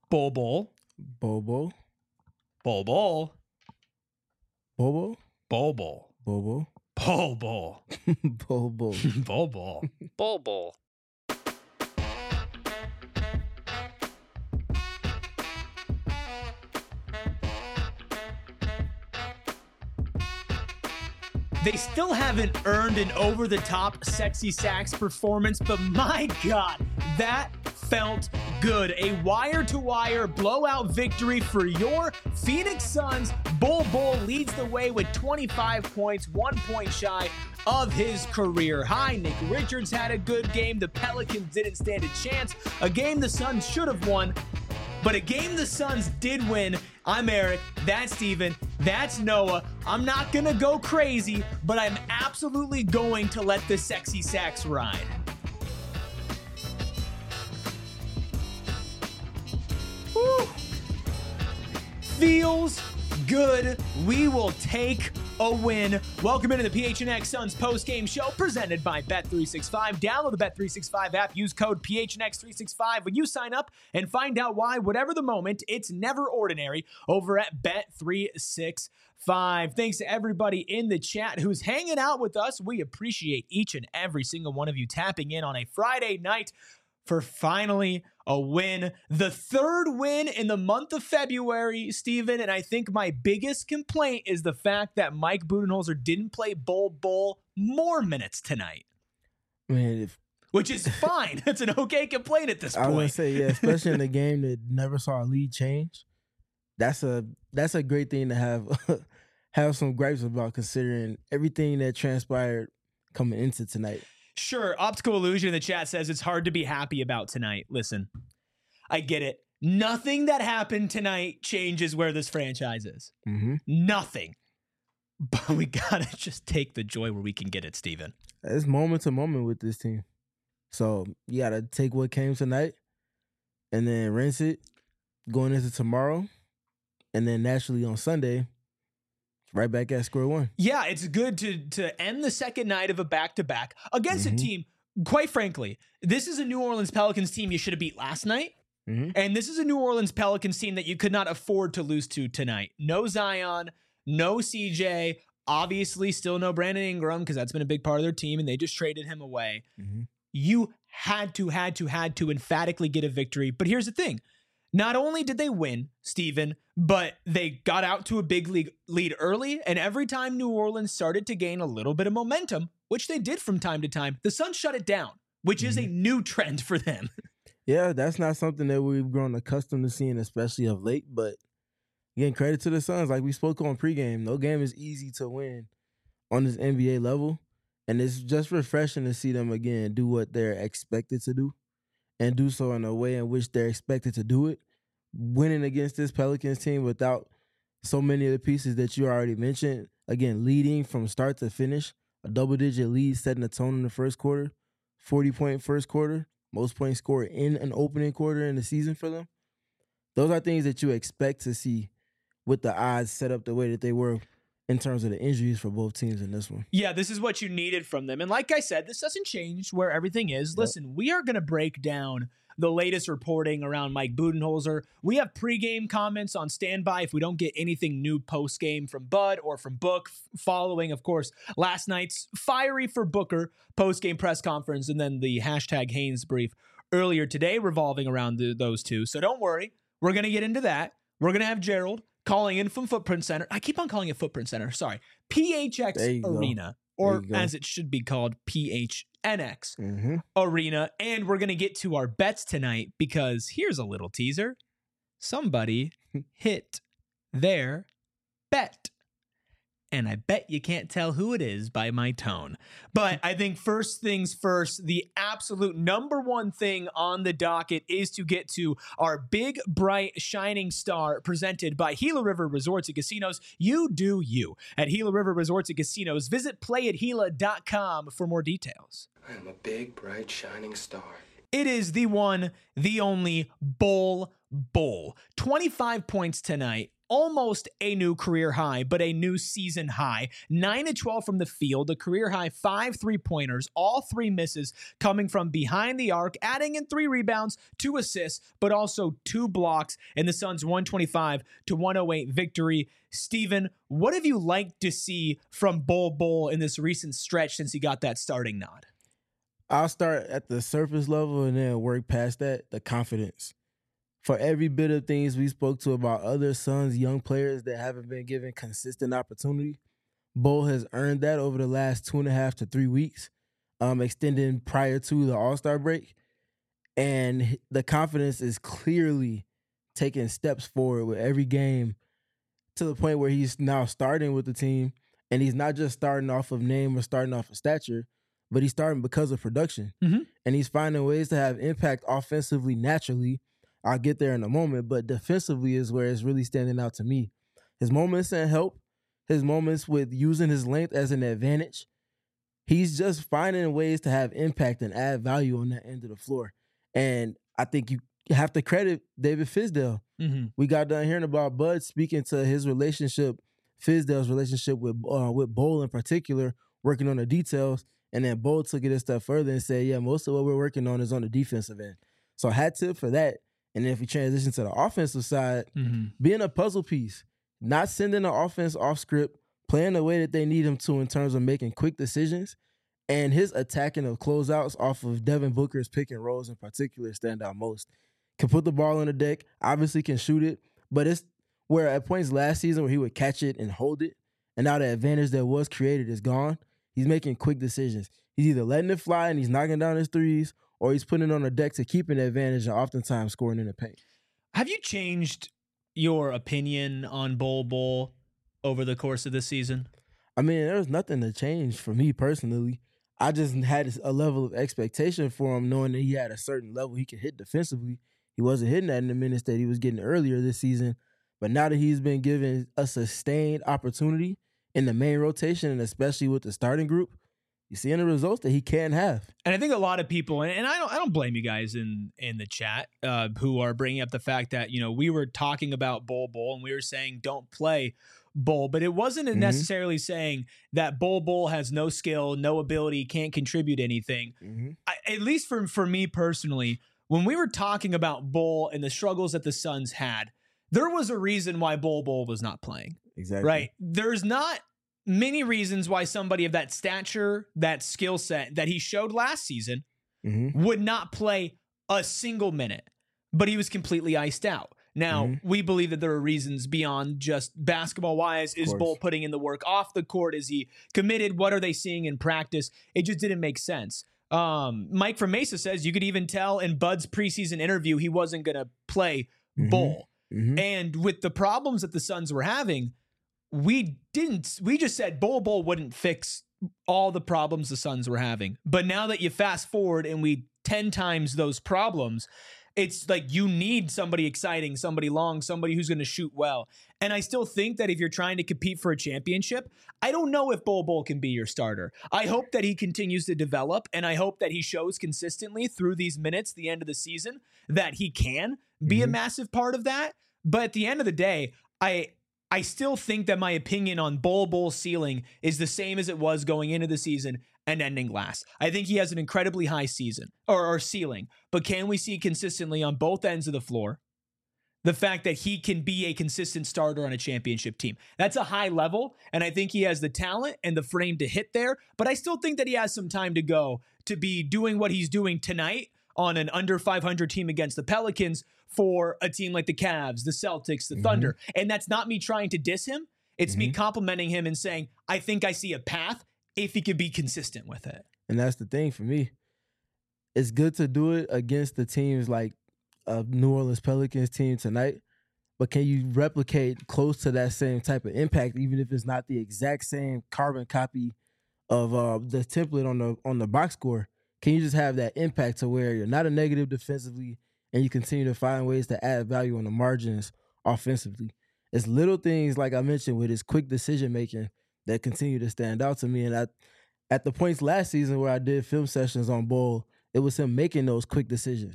Bol Bol. Bobo. Bol Bol. Bobo. Bol Bol. Bobo. Bol Bol. Bobo. Bol Bol. Bol Bol. They still haven't earned an over-the-top Sexy Sax performance, but my God, that felt good. A wire-to-wire blowout victory for your Phoenix Suns. Bol Bol leads the way with 25 points, 1 point shy of his career high. Nick Richards had a good game. The Pelicans didn't stand a chance. A game the Suns should have won, but a game the Suns did win. I'm Eric. That's Steven. That's Noah. I'm not going to go crazy, but I'm absolutely going to let the Sexy Sax ride. Woo. Feels good. We will take a win. Welcome into the PHNX Suns post-game show presented by Bet365. Download the Bet365 app. Use code PHNX365 when you sign up and find out why, whatever the moment, it's never ordinary over at Bet365. Thanks to everybody in the chat who's hanging out with us. We appreciate each and every single one of you tapping in on a Friday night for finally a win. The third win in the month of February, Steven, and I think my biggest complaint is the fact that Mike Budenholzer didn't play Bol Bol more minutes tonight. Man, which is fine. It's an okay complaint at this point. I was going to say, yeah, especially in a game that never saw a lead change. That's a great thing to have some gripes about, considering everything that transpired coming into tonight. Sure, Optical Illusion in the chat says it's hard to be happy about tonight. Listen, I get it. Nothing that happened tonight changes where this franchise is. Mm-hmm. Nothing. But we got to just take the joy where we can get it, Steven. It's moment to moment with this team. So you got to take what came tonight and then rinse it going into tomorrow. And then naturally on Sunday, right back at square one. Yeah, it's good to end the second night of a back-to-back against a team, quite frankly, this is a New Orleans Pelicans team you should have beat last night. Mm-hmm. And this is a New Orleans Pelicans team that you could not afford to lose to tonight. No Zion, no CJ, obviously still no Brandon Ingram because that's been a big part of their team and they just traded him away. Mm-hmm. You had to emphatically get a victory. But here's the thing. Not only did they win, Steven, but they got out to a big lead early, and every time New Orleans started to gain a little bit of momentum, which they did from time to time, the Suns shut it down, which is a new trend for them. Yeah, that's not something that we've grown accustomed to seeing, especially of late, but again, credit to the Suns. Like we spoke on pregame, no game is easy to win on this NBA level, and it's just refreshing to see them, again, do what they're expected to do and do so in a way in which they're expected to do it. Winning against this Pelicans team without so many of the pieces that you already mentioned. Again, leading from start to finish, a double-digit lead, setting the tone in the first quarter, 40-point first quarter, most points scored in an opening quarter in the season for them. Those are things that you expect to see with the odds set up the way that they were in terms of the injuries for both teams in this one. Yeah, this is what you needed from them. And like I said, this doesn't change where everything is. Yep. Listen, we are going to break down the latest reporting around Mike Budenholzer. We have pregame comments on standby if we don't get anything new postgame from Bud or from Book, following, of course, last night's fiery for Booker postgame press conference and then the hashtag Haynes brief earlier today revolving around those two. So don't worry. We're going to get into that. We're going to have Gerald calling in from Footprint Center. I keep on calling it Footprint Center. Sorry. PHX Arena, or as it should be called, PHNX Arena. And we're going to get to our bets tonight because here's a little teaser. Somebody hit their bet. And I bet you can't tell who it is by my tone. But I think first things first, the absolute number one thing on the docket is to get to our big, bright, shining star presented by Gila River Resorts and Casinos. You do you at Gila River Resorts and Casinos. Visit playatgila.com for more details. I am a big, bright, shining star. It is the one, the only Bol Bol. 25 points tonight. Almost a new career high, but a new season high. 9-12 from the field, a career high 5 3-pointers, all 3 misses coming from behind the arc, adding in 3 rebounds, 2 assists, but also 2 blocks in the Suns' 125-108 victory. Steven, what have you liked to see from Bol in this recent stretch since he got that starting nod? I'll start at the surface level and then work past that, the confidence. For every bit of things we spoke to about other Suns young players that haven't been given consistent opportunity, Bol has earned that over the last 2.5 to 3 weeks, extending prior to the All-Star break. And the confidence is clearly taking steps forward with every game to the point where he's now starting with the team. And he's not just starting off of name or starting off of stature, but he's starting because of production. Mm-hmm. And he's finding ways to have impact offensively naturally. I'll get there in a moment, but defensively is where it's really standing out to me. His moments in help, his moments with using his length as an advantage, he's just finding ways to have impact and add value on that end of the floor. And I think you have to credit David Fizdale. Mm-hmm. We got done hearing about Bud speaking to his relationship, Fizdale's relationship with Bol in particular, working on the details, and then Bol took it a step further and said, yeah, most of what we're working on is on the defensive end. So hat tip for that. And then if we transition to the offensive side, being a puzzle piece, not sending the offense off script, playing the way that they need him to in terms of making quick decisions, and his attacking of closeouts off of Devin Booker's pick and rolls in particular stand out most. Can put the ball on the deck, obviously can shoot it, but it's where at points last season where he would catch it and hold it, and now the advantage that was created is gone. He's making quick decisions. He's either letting it fly and he's knocking down his threes, or he's putting it on the deck to keep an advantage and oftentimes scoring in the paint. Have you changed your opinion on Bol over the course of this season? I mean, there was nothing to change for me personally. I just had a level of expectation for him, knowing that he had a certain level he could hit defensively. He wasn't hitting that in the minutes that he was getting earlier this season. But now that he's been given a sustained opportunity in the main rotation, and especially with the starting group, you're seeing the results that he can have. And I think a lot of people, and I don't blame you guys in the chat who are bringing up the fact that, you know, we were talking about Bol and we were saying don't play Bol, but it wasn't necessarily saying that Bol has no skill, no ability, can't contribute anything. At least for me personally, when we were talking about Bol and the struggles that the Suns had, there was a reason why Bol was not playing. Exactly. Right? There's not many reasons why somebody of that stature, that skill set that he showed last season would not play a single minute, but he was completely iced out. Now, we believe that there are reasons beyond just basketball-wise. Is Bol putting in the work off the court? Is he committed? What are they seeing in practice? It just didn't make sense. Mike from Mesa says you could even tell in Bud's preseason interview he wasn't going to play Bol. And with the problems that the Suns were having, we just said Bol wouldn't fix all the problems the Suns were having. But now that you fast forward and we 10 times those problems, it's like you need somebody exciting, somebody long, somebody who's going to shoot well. And I still think that if you're trying to compete for a championship, I don't know if Bol can be your starter. I hope that he continues to develop, and I hope that he shows consistently through these minutes, the end of the season, that he can be a massive part of that. But at the end of the day, I still think that my opinion on Bol's ceiling is the same as it was going into the season and ending last. I think he has an incredibly high season or ceiling, but can we see consistently on both ends of the floor the fact that he can be a consistent starter on a championship team? That's a high level, and I think he has the talent and the frame to hit there, but I still think that he has some time to go to be doing what he's doing tonight on an under 500 team against the Pelicans for a team like the Cavs, the Celtics, the Thunder. And that's not me trying to diss him. It's me complimenting him and saying, I think I see a path if he could be consistent with it. And that's the thing for me. It's good to do it against the teams like New Orleans Pelicans team tonight, but can you replicate close to that same type of impact, even if it's not the exact same carbon copy of the template on the box score? Can you just have that impact to where you're not a negative defensively and you continue to find ways to add value on the margins offensively? It's little things, like I mentioned, with his quick decision-making that continue to stand out to me. And at the points last season where I did film sessions on Bol, it was him making those quick decisions.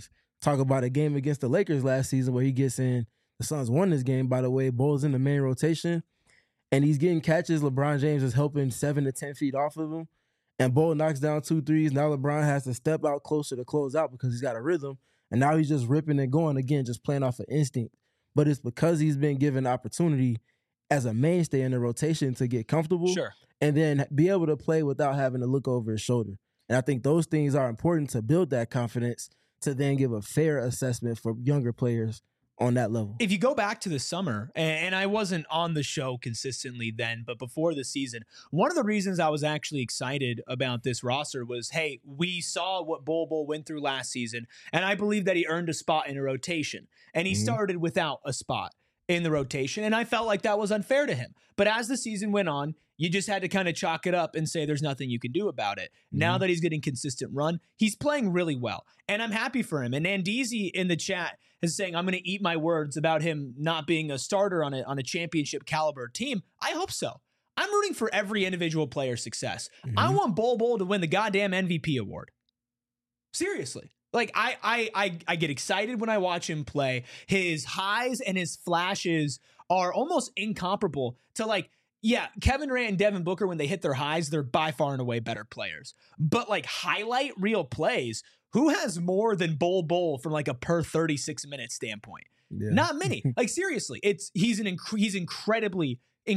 talk about a game against the Lakers last season where he gets in. The Suns won this game, by the way. Bull's in the main rotation, and he's getting catches. LeBron James is helping 7 to 10 feet off of him, and Bull knocks down 2 threes. Now LeBron has to step out closer to close out because he's got a rhythm, and now he's just ripping and going again, just playing off of instinct. But it's because he's been given opportunity as a mainstay in the rotation to get comfortable and then be able to play without having to look over his shoulder. And I think those things are important to build that confidence to then give a fair assessment for younger players on that level. If you go back to the summer, and I wasn't on the show consistently then, but before the season, one of the reasons I was actually excited about this roster was, hey, we saw what Bol went through last season, and I believe that he earned a spot in a rotation, and he started without a spot in the rotation, and I felt like that was unfair to him. But as the season went on, you just had to kind of chalk it up and say there's nothing you can do about it. Now that he's getting consistent run, he's playing really well, and I'm happy for him. And Andeezy in the chat is saying, I'm going to eat my words about him not being a starter on a championship caliber team. I hope so. I'm rooting for every individual player's success. I want Bol to win the goddamn MVP award. Seriously. Like, I get excited when I watch him play. His highs and his flashes are almost incomparable to, like, yeah, Kevin Durant and Devin Booker, when they hit their highs, they're by far and away better players. But, like, highlight reel plays, who has more than Bol from, like, a per 36-minute standpoint? Yeah. Not many. Like, seriously, he's incredibly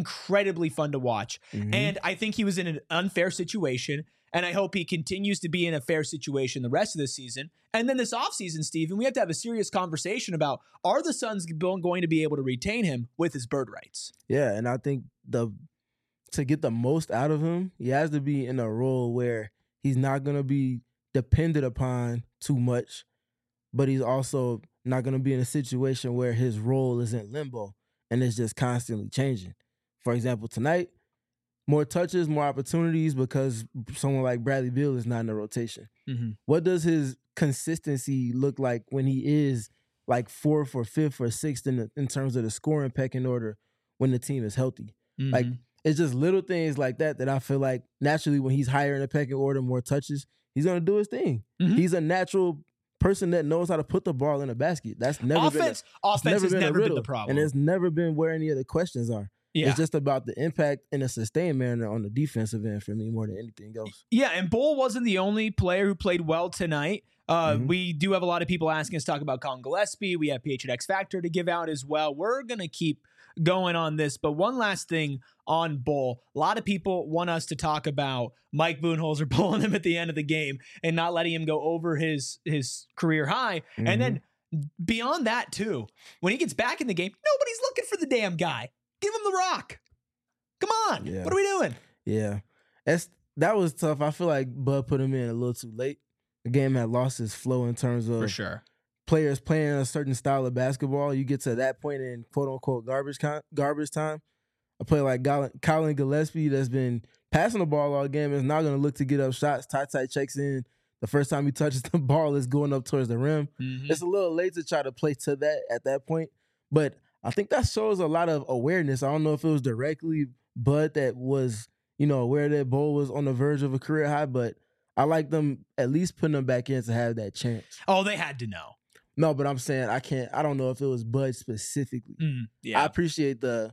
fun to watch. And I think he was in an unfair situation. And I hope he continues to be in a fair situation the rest of the season. And then this offseason, Steven, we have to have a serious conversation about, are the Suns going to be able to retain him with his bird rights? Yeah, and I think to get the most out of him, he has to be in a role where he's not going to be depended upon too much, but he's also not going to be in a situation where his role is in limbo and it's just constantly changing. For example, tonight, more touches, more opportunities because someone like Bradley Beal is not in the rotation. What does his consistency look like when he is like 4th or 5th or 6th in terms of the scoring pecking order when the team is healthy? Like, it's just little things like that I feel like naturally when he's higher in the pecking order, more touches, he's going to do his thing. He's a natural person that knows how to put the ball in a basket. That's never offense has never been the problem. And it's never been where any of the questions are. Yeah. It's just about the impact in a sustained manner on the defensive end for me more than anything else. Yeah, and Bol wasn't the only player who played well tonight. We do have a lot of people asking us to talk about Colin Gillespie. We have PH at X Factor to give out as well. We're going to keep going on this. But one last thing on Bol. A lot of people want us to talk about Mike Budenholzer pulling him at the end of the game and not letting him go over his career high. And then beyond that, too, when he gets back in the game, nobody's looking for the damn guy. Give him the rock. Come on. Yeah. What are we doing? Yeah. That was tough. I feel like Bud put him in a little too late. The game had lost its flow in terms of for sure players playing a certain style of basketball. You get to that point in quote-unquote garbage time. A player like Colin Gillespie that's been passing the ball all game is not going to look to get up shots. Ty checks in. The first time he touches the ball is going up towards the rim. It's a little late to try to play to that at that point. But I think that shows a lot of awareness. I don't know if it was directly Bud that was, aware that Bol was on the verge of a career high, but I like them at least putting him back in to have that chance. Oh, they had to know. No, but I'm saying I don't know if it was Bud specifically. I appreciate the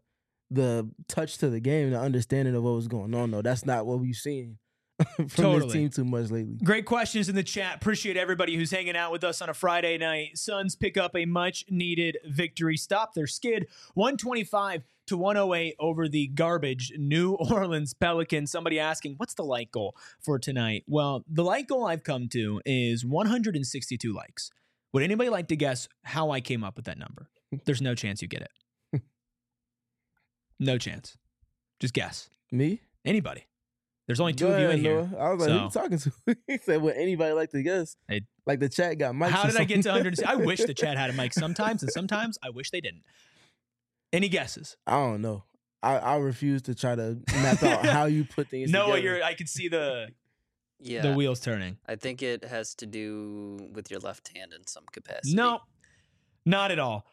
touch to the game, the understanding of what was going on, though. That's not what we've seen from this team too much lately. Great questions in the chat. Appreciate everybody who's hanging out with us on a Friday night. Suns pick up a much-needed victory. Stop their skid 125-108 over the garbage New Orleans Pelicans. Somebody asking, what's the like goal for tonight? Well, the like goal I've come to is 162 likes. Would anybody like to guess how I came up with that number? There's no chance you get it. No chance. Just guess. Me? Anybody. There's only two of you in here. I was like, who are you talking to? He said, would anybody like to guess? Like the chat got mics. How did I get to 100? I wish the chat had a mic sometimes, and sometimes I wish they didn't. Any guesses? I don't know. I refuse to try to map out how you put things together. I can see the wheels turning. I think it has to do with your left hand in some capacity. No, not at all.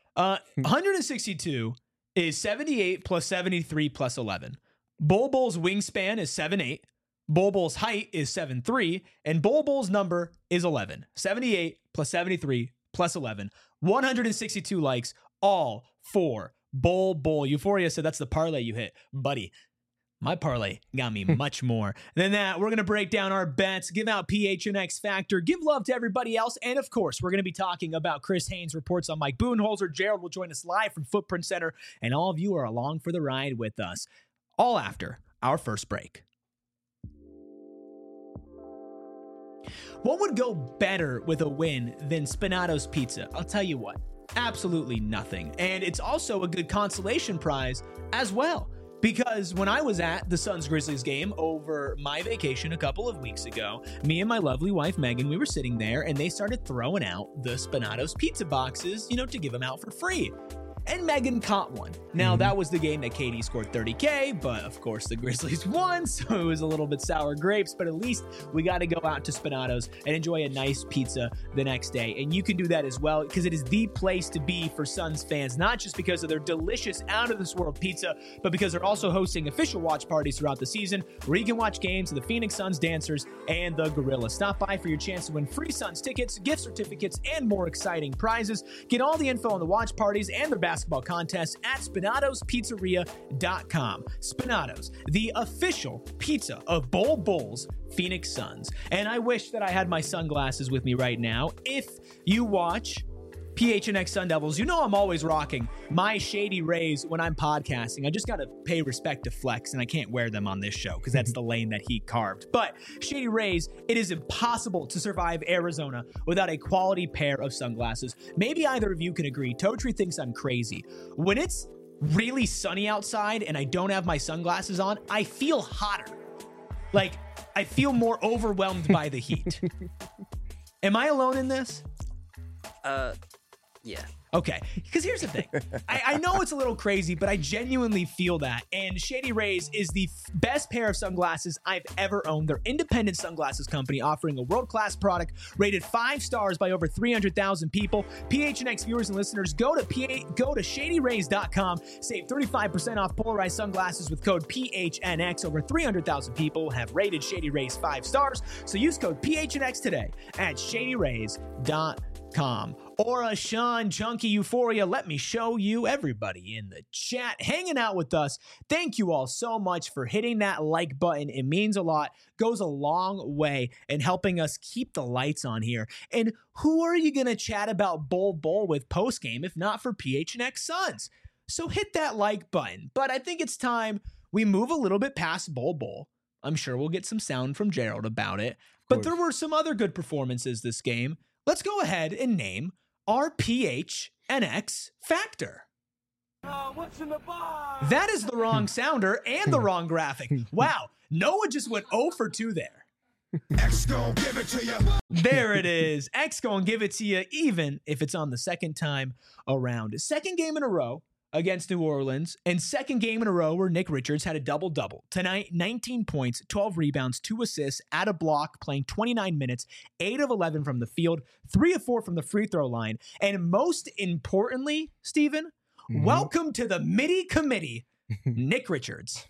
162 is 78 plus 73 plus 11. Bol's wingspan is 7'8". Bol's height is 7'3", and Bol's number is 11. 78 plus 73 plus 11, 162 likes, all for Bowl. Euphoria said that's the parlay you hit. Buddy, my parlay got me much more than that. We're going to break down our bets, give out PHNX Factor, give love to everybody else, and of course, we're going to be talking about Chris Haynes' reports on Mike Budenholzer. Gerald will join us live from Footprint Center, and all of you are along for the ride with us, all after our first break. What would go better with a win than Spinato's Pizza? I'll tell you what, absolutely nothing. And it's also a good consolation prize as well. Because when I was at the Suns-Grizzlies game over my vacation a couple of weeks ago, me and my lovely wife, Megan, we were sitting there and they started throwing out the Spinato's pizza boxes, to give them out for free. And Megan caught one. Now, that was the game that KD scored 30K, but of course the Grizzlies won, so it was a little bit sour grapes, but at least we got to go out to Spinato's and enjoy a nice pizza the next day. And you can do that as well, because it is the place to be for Suns fans, not just because of their delicious, out-of-this-world pizza, but because they're also hosting official watch parties throughout the season, where you can watch games of the Phoenix Suns dancers and the Gorillas. Stop by for your chance to win free Suns tickets, gift certificates, and more exciting prizes. Get all the info on the watch parties and their basketball contests at SpinatosPizzeria.com. Spinatos, the official pizza of Bol Bol's Phoenix Suns. And I wish that I had my sunglasses with me right now. If you watch PHNX Sun Devils, I'm always rocking my Shady Rays when I'm podcasting. I just got to pay respect to Flex, and I can't wear them on this show because that's the lane that he carved. But Shady Rays, it is impossible to survive Arizona without a quality pair of sunglasses. Maybe either of you can agree. Totri thinks I'm crazy. When it's really sunny outside and I don't have my sunglasses on, I feel hotter. Like, I feel more overwhelmed by the heat. Am I alone in this? Yeah. Okay, because here's the thing. I know it's a little crazy, but I genuinely feel that. And Shady Rays is the best pair of sunglasses I've ever owned. They're independent sunglasses company offering a world-class product rated 5 stars by over 300,000 people. PHNX viewers and listeners, go to shadyrays.com. Save 35% off polarized sunglasses with code PHNX. Over 300,000 people have rated Shady Rays 5 stars. So use code PHNX today at shadyrays.com. Or Sean Chunky Euphoria, let me show you everybody in the chat hanging out with us. Thank you all so much for hitting that like button. It means a lot, goes a long way in helping us keep the lights on here. And who are you going to chat about Bowl with postgame if not for PHNX Suns? So hit that like button. But I think it's time we move a little bit past Bowl. I'm sure we'll get some sound from Gerald about it. But there were some other good performances this game. Let's go ahead and name our PHNX Factor. What's in the box? That is the wrong sounder and the wrong graphic. Wow, Noah just went 0 for 2 there. X gon' give it to you. There it is. X gon' give it to you, even if it's on the second time around. Second game in a row against New Orleans, and second game in a row where Nick Richards had a double-double. Tonight, 19 points, 12 rebounds, 2 assists, at a block, playing 29 minutes, 8 of 11 from the field, 3 of 4 from the free throw line, and most importantly, Steven, welcome to the MIDI committee, Nick Richards.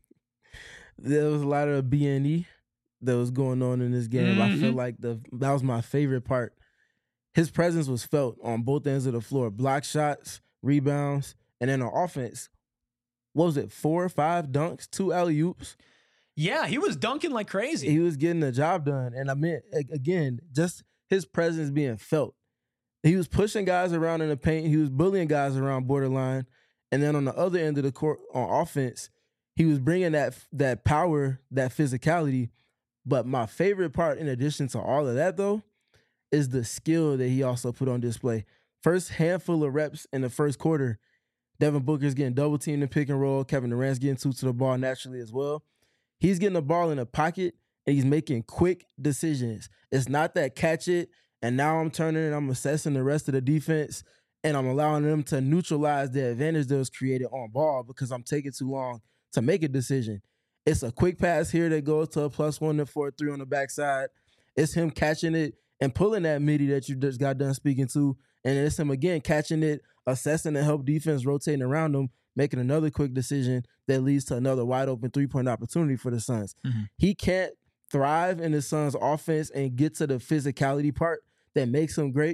There was a lot of BNE that was going on in this game. I feel like that was my favorite part. His presence was felt on both ends of the floor. Block shots, rebounds, and then on offense, what was it, 4 or 5 dunks, 2 alley-oops? Yeah, he was dunking like crazy. He was getting the job done. And I mean, again, just his presence being felt. He was pushing guys around in the paint. He was bullying guys around borderline. And then on the other end of the court, on offense, he was bringing that power, that physicality. But my favorite part, in addition to all of that, though, is the skill that he also put on display. First handful of reps in the first quarter, Devin Booker's getting double-teamed in pick and roll. Kevin Durant's getting 2 to the ball naturally as well. He's getting the ball in the pocket, and he's making quick decisions. It's not that catch it, and now I'm turning and I'm assessing the rest of the defense, and I'm allowing them to neutralize the advantage that was created on ball because I'm taking too long to make a decision. It's a quick pass here that goes to a +1 for a 3 on the backside. It's him catching it and pulling that MIDI that you just got done speaking to, and it's him again catching it, assessing the help defense, rotating around him, making another quick decision that leads to another wide open 3-point opportunity for the Suns. He can't thrive in the Suns offense and get to the physicality part that makes him great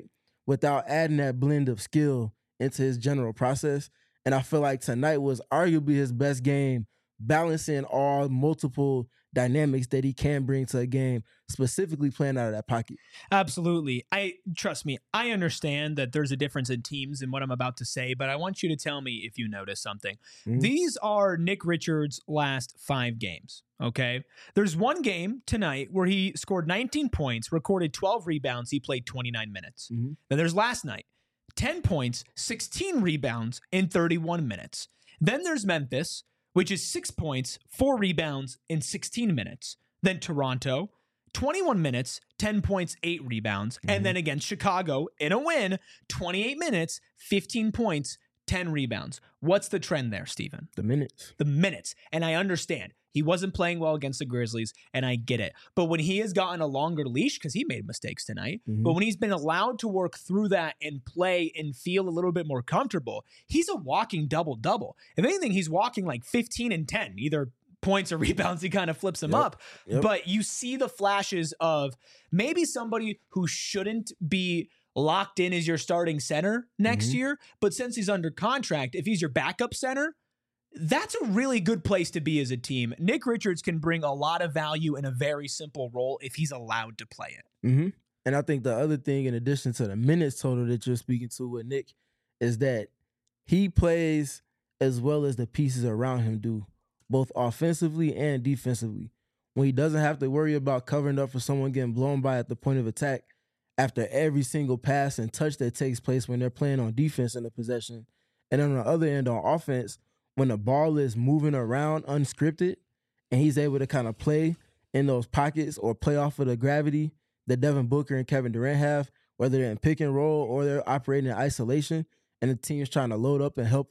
without adding that blend of skill into his general process. And I feel like tonight was arguably his best game, balancing all multiple dynamics that he can bring to a game, specifically playing out of that pocket. Absolutely. Trust me, I understand that there's a difference in teams in what I'm about to say, but I want you to tell me if you notice something. Mhm. These are Nick Richards' last 5 games, okay? There's one game tonight where he scored 19 points, recorded 12 rebounds, he played 29 minutes. Mhm. Then there's last night, 10 points, 16 rebounds in 31 minutes. Then there's Memphis, which is 6 points, 4 rebounds in 16 minutes. Then Toronto, 21 minutes, 10 points, 8 rebounds. And then against Chicago, in a win, 28 minutes, 15 points, 10 rebounds. What's the trend there, Steven? The minutes. The minutes. And I understand. He wasn't playing well against the Grizzlies, and I get it. But when he has gotten a longer leash, because he made mistakes tonight, but when he's been allowed to work through that and play and feel a little bit more comfortable, he's a walking double-double. If anything, he's walking like 15 and 10, either points or rebounds. He kind of flips them up. But you see the flashes of maybe somebody who shouldn't be locked in as your starting center next year, but since he's under contract, if he's your backup center, that's a really good place to be as a team. Nick Richards can bring a lot of value in a very simple role if he's allowed to play it. And I think the other thing, in addition to the minutes total that you're speaking to with Nick, is that he plays as well as the pieces around him do, both offensively and defensively. When he doesn't have to worry about covering up for someone getting blown by at the point of attack after every single pass and touch that takes place when they're playing on defense in the possession. And then on the other end, on offense, when the ball is moving around unscripted and he's able to kind of play in those pockets or play off of the gravity that Devin Booker and Kevin Durant have, whether they're in pick and roll or they're operating in isolation, and the team's trying to load up and help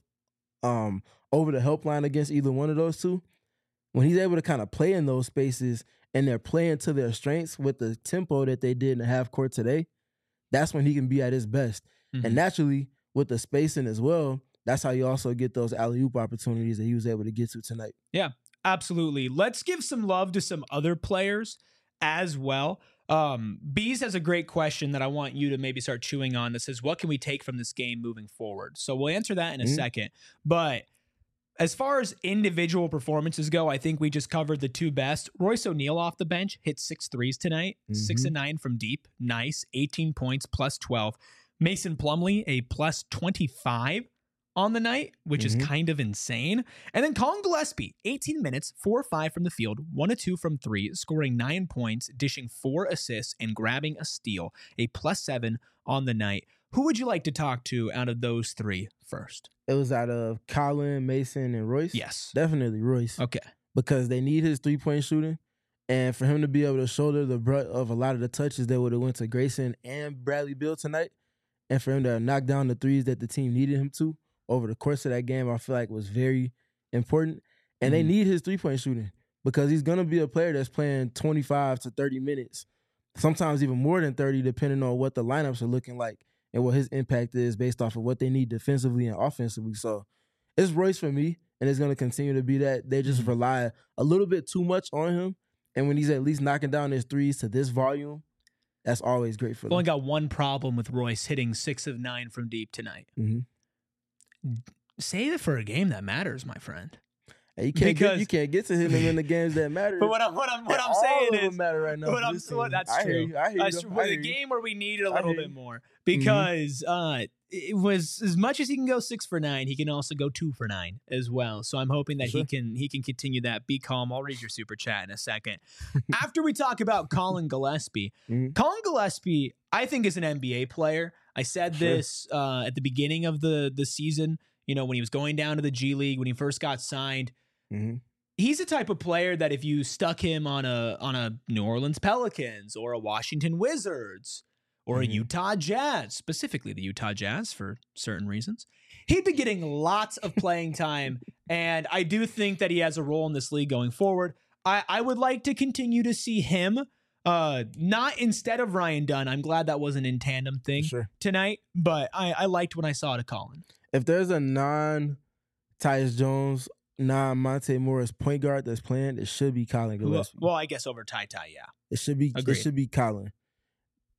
over the help line against either one of those two, when he's able to kind of play in those spaces and they're playing to their strengths with the tempo that they did in the half court today, that's when he can be at his best. And naturally, with the spacing as well, that's how you also get those alley-oop opportunities that he was able to get to tonight. Yeah, absolutely. Let's give some love to some other players as well. Bees has a great question that I want you to maybe start chewing on that says, what can we take from this game moving forward? So we'll answer that in a second. But as far as individual performances go, I think we just covered the 2 best. Royce O'Neal off the bench hit 6 threes tonight, 6 and 9 from deep. Nice. 18 points, plus 12. Mason Plumlee, a plus 25 on the night, which is kind of insane. And then Colin Gillespie, 18 minutes, 4-5 from the field, 1-2 from 3, scoring 9 points, dishing 4 assists, and grabbing a steal, a plus 7 on the night. Who would you like to talk to out of those 3 first? It was out of Colin, Mason, and Royce? Yes. Definitely Royce. Okay. Because they need his three-point shooting. And for him to be able to shoulder the brunt of a lot of the touches that would have went to Grayson and Bradley Beal tonight, and for him to knock down the threes that the team needed him to over the course of that game, I feel like was very important. And they need his three-point shooting because he's going to be a player that's playing 25 to 30 minutes, sometimes even more than 30, depending on what the lineups are looking like and what his impact is based off of what they need defensively and offensively. So it's Royce for me, and it's going to continue to be that. They just rely a little bit too much on him. And when he's at least knocking down his threes to this volume, that's always great for them. Only got one problem with Royce hitting 6 of 9 from deep tonight. Save it for a game that matters, my friend. Hey, you can't get to him in the games that matter. But what I'm saying is, matter right now. that's true. That's the game where we need it a little bit more because it was as much as he can go 6 for 9, he can also go 2 for 9 as well. So I'm hoping that he can continue that. Be calm. I'll read your super chat in a second. After we talk about Colin Gillespie, Colin Gillespie, I think, is an NBA player. I said this at the beginning of the season, when he was going down to the G League, when he first got signed. He's the type of player that if you stuck him on a New Orleans Pelicans or a Washington Wizards or a Utah Jazz, specifically the Utah Jazz for certain reasons, he'd be getting lots of playing time. And I do think that he has a role in this league going forward. I would like to continue to see him, not instead of Ryan Dunn. I'm glad that wasn't in tandem thing tonight, but I liked when I saw it at Colin. If there's a non-Tyus Jones, non-Monte Morris point guard that's playing, it should be Colin Gillespie. Well, I guess over Ty, yeah. It should be Colin.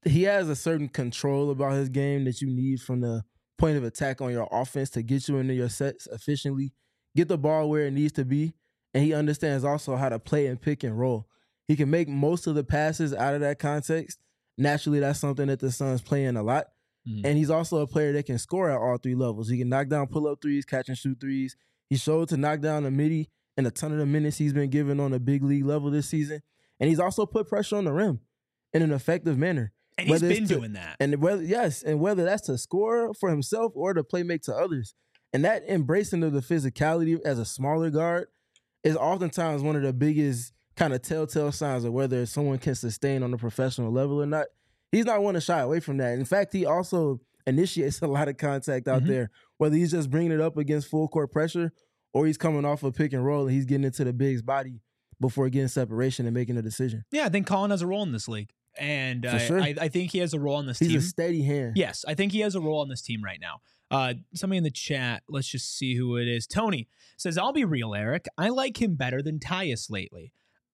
he has a certain control about his game that you need from the point of attack on your offense to get you into your sets efficiently, get the ball where it needs to be, and he understands also how to play and pick and roll. He can make most of the passes out of that context. Naturally, that's something that the Suns play in a lot. And he's also a player that can score at all three levels. He can knock down pull-up threes, catch and shoot threes. He showed to knock down the midi in a ton of the minutes he's been given on a big league level this season. And he's also put pressure on the rim in an effective manner. And he's been doing that. And whether that's to score for himself or to play make to others. And that embracing of the physicality as a smaller guard is oftentimes one of the biggest kind of telltale signs of whether someone can sustain on a professional level or not. He's not one to shy away from that. In fact, he also initiates a lot of contact out there, whether he's just bringing it up against full court pressure or he's coming off a pick and roll and he's getting into the big's body before getting separation and making a decision. Yeah, I think Colin has a role in this league. And sure. I think he has a role on this team. He's a steady hand. Yes, I think he has a role on this team right now. Somebody in the chat, let's just see who it is. Tony says, I'll be real, Eric. I like him better than Tyus lately.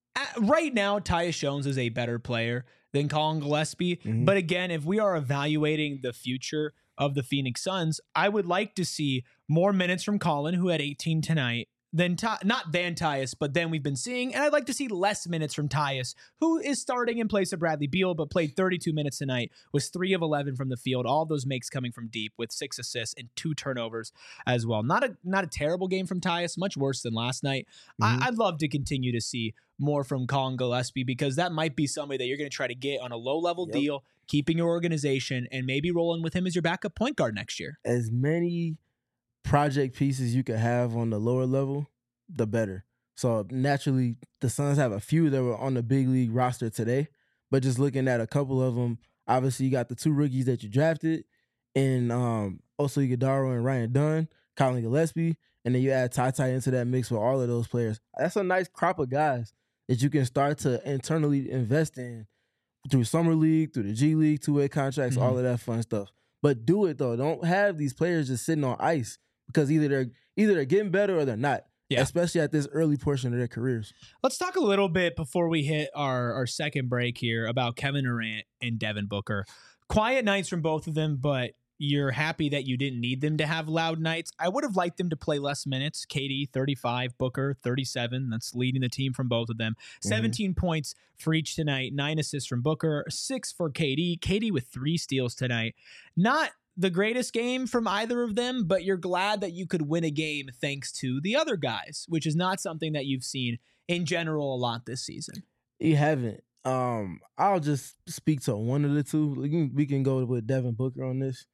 Right now, Tyus Jones is a better player than Colin Gillespie. But again, if we are evaluating the future of the Phoenix Suns, I would like to see more minutes from Colin, who had 18 tonight, than not than Tyus, but then we've been seeing. And I'd like to see less minutes from Tyus, who is starting in place of Bradley Beal, but played 32 minutes tonight, was 3 of 11 from the field. All those makes coming from deep with 6 assists and 2 turnovers as well. Not a terrible game from Tyus, much worse than last night. I'd love to continue to see more from Colin Gillespie because that might be somebody that you're going to try to get on a low-level deal, keeping your organization, and maybe rolling with him as your backup point guard next year. As many project pieces you could have on the lower level, the better. So naturally, the Suns have a few that were on the big league roster today, but just looking at a couple of them, obviously you got the 2 rookies that you drafted, and Oso Ighodaro and Ryan Dunn, Colin Gillespie, and then you add Ty into that mix with all of those players. That's a nice crop of guys that you can start to internally invest in through Summer League, through the G League, 2-way contracts, all of that fun stuff. But do it, though. Don't have these players just sitting on ice because either they're getting better or they're not, especially at this early portion of their careers. Let's talk a little bit before we hit our second break here about Kevin Durant and Devin Booker. Quiet nights from both of them, but you're happy that you didn't need them to have loud nights. I would have liked them to play less minutes. KD, 35, Booker, 37. That's leading the team from both of them. 17 points for each tonight, 9 assists from Booker, 6 for KD. KD with 3 steals tonight. Not the greatest game from either of them, but you're glad that you could win a game thanks to the other guys, which is not something that you've seen in general a lot this season. You haven't. I'll just speak to one of the two. We can go with Devin Booker on this.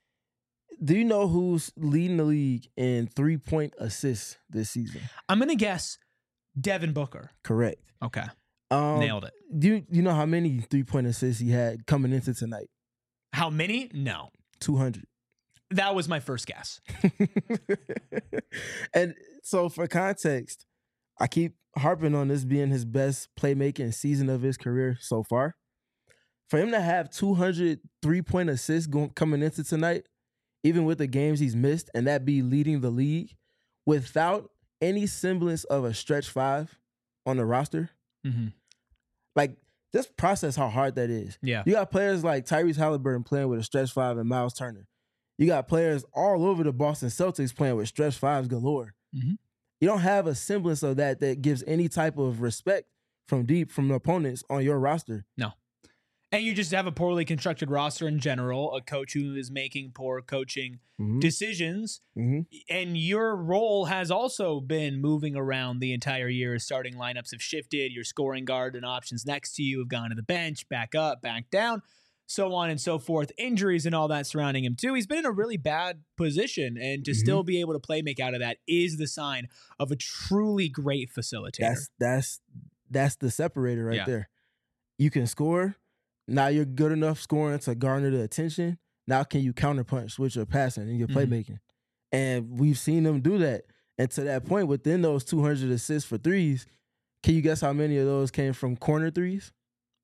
Do you know who's leading the league in 3-point assists this season? I'm going to guess Devin Booker. Correct. Okay. Nailed it. Do you know how many 3-point assists he had coming into tonight? How many? No. 200. That was my first guess. And so for context, I keep harping on this being his best playmaking season of his career so far. For him to have 200 3-point assists coming into tonight, even with the games he's missed, and that be leading the league without any semblance of a stretch 5 on the roster. Like, just process how hard that is. Yeah. You got players like Tyrese Halliburton playing with a stretch 5 and Miles Turner. You got players all over the Boston Celtics playing with stretch 5s galore. You don't have a semblance of that gives any type of respect from deep from the opponents on your roster. No. And you just have a poorly constructed roster in general, a coach who is making poor coaching decisions. And your role has also been moving around the entire year. Starting lineups have shifted. Your scoring guard and options next to you have gone to the bench, back up, back down, so on and so forth. Injuries and all that surrounding him too. He's been in a really bad position, and to still be able to play make out of that is the sign of a truly great facilitator. That's the separator right there. You can score. Now you're good enough scoring to garner the attention. Now can you counterpunch with your passing and your playmaking? And we've seen them do that. And to that point, within those 200 assists for threes, can you guess how many of those came from corner threes?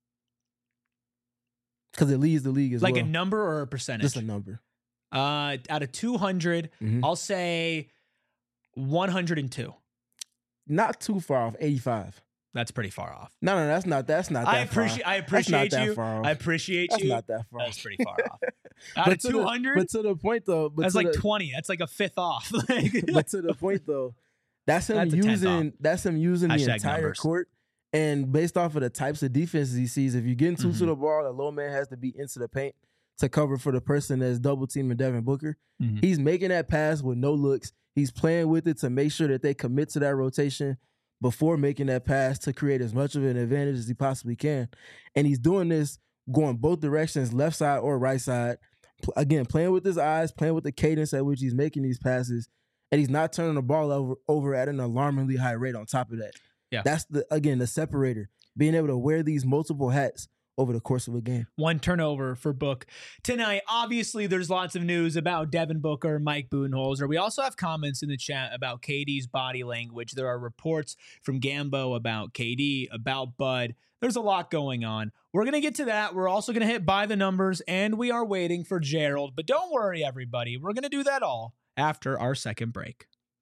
Because it leads the league as well. Like a number or a percentage? Just a number. Out of 200, I'll say 102. Not too far off, 85. That's pretty far off. No, that's not that I appreciate you. I appreciate That's you. not that far. That's pretty far off. Out of 200, but to the point though, that's like 20. That's like a fifth off. But to the point though, that's him using the entire numbers. court. And based off of the types of defenses he sees, if you're getting two to the ball, the low man has to be into the paint to cover for the person that's double teaming Devin Booker. He's making that pass with no looks. He's playing with it to make sure that they commit to that rotation before making that pass to create as much of an advantage as he possibly can. And he's doing this going both directions, left side or right side. Again, playing with his eyes, playing with the cadence at which he's making these passes, and he's not turning the ball over at an alarmingly high rate on top of that. Yeah. That's the separator, being able to wear these multiple hats over the course of a game. One turnover for Book tonight. Obviously, there's lots of news about Devin Booker, Mike Budenholzer. We also have comments in the chat about KD's body language. There are reports from Gambo about KD, about Bud. There's a lot going on. We're going to get to that. We're also going to hit by the numbers, and we are waiting for Gerald. But don't worry, everybody. We're going to do that all after our second break.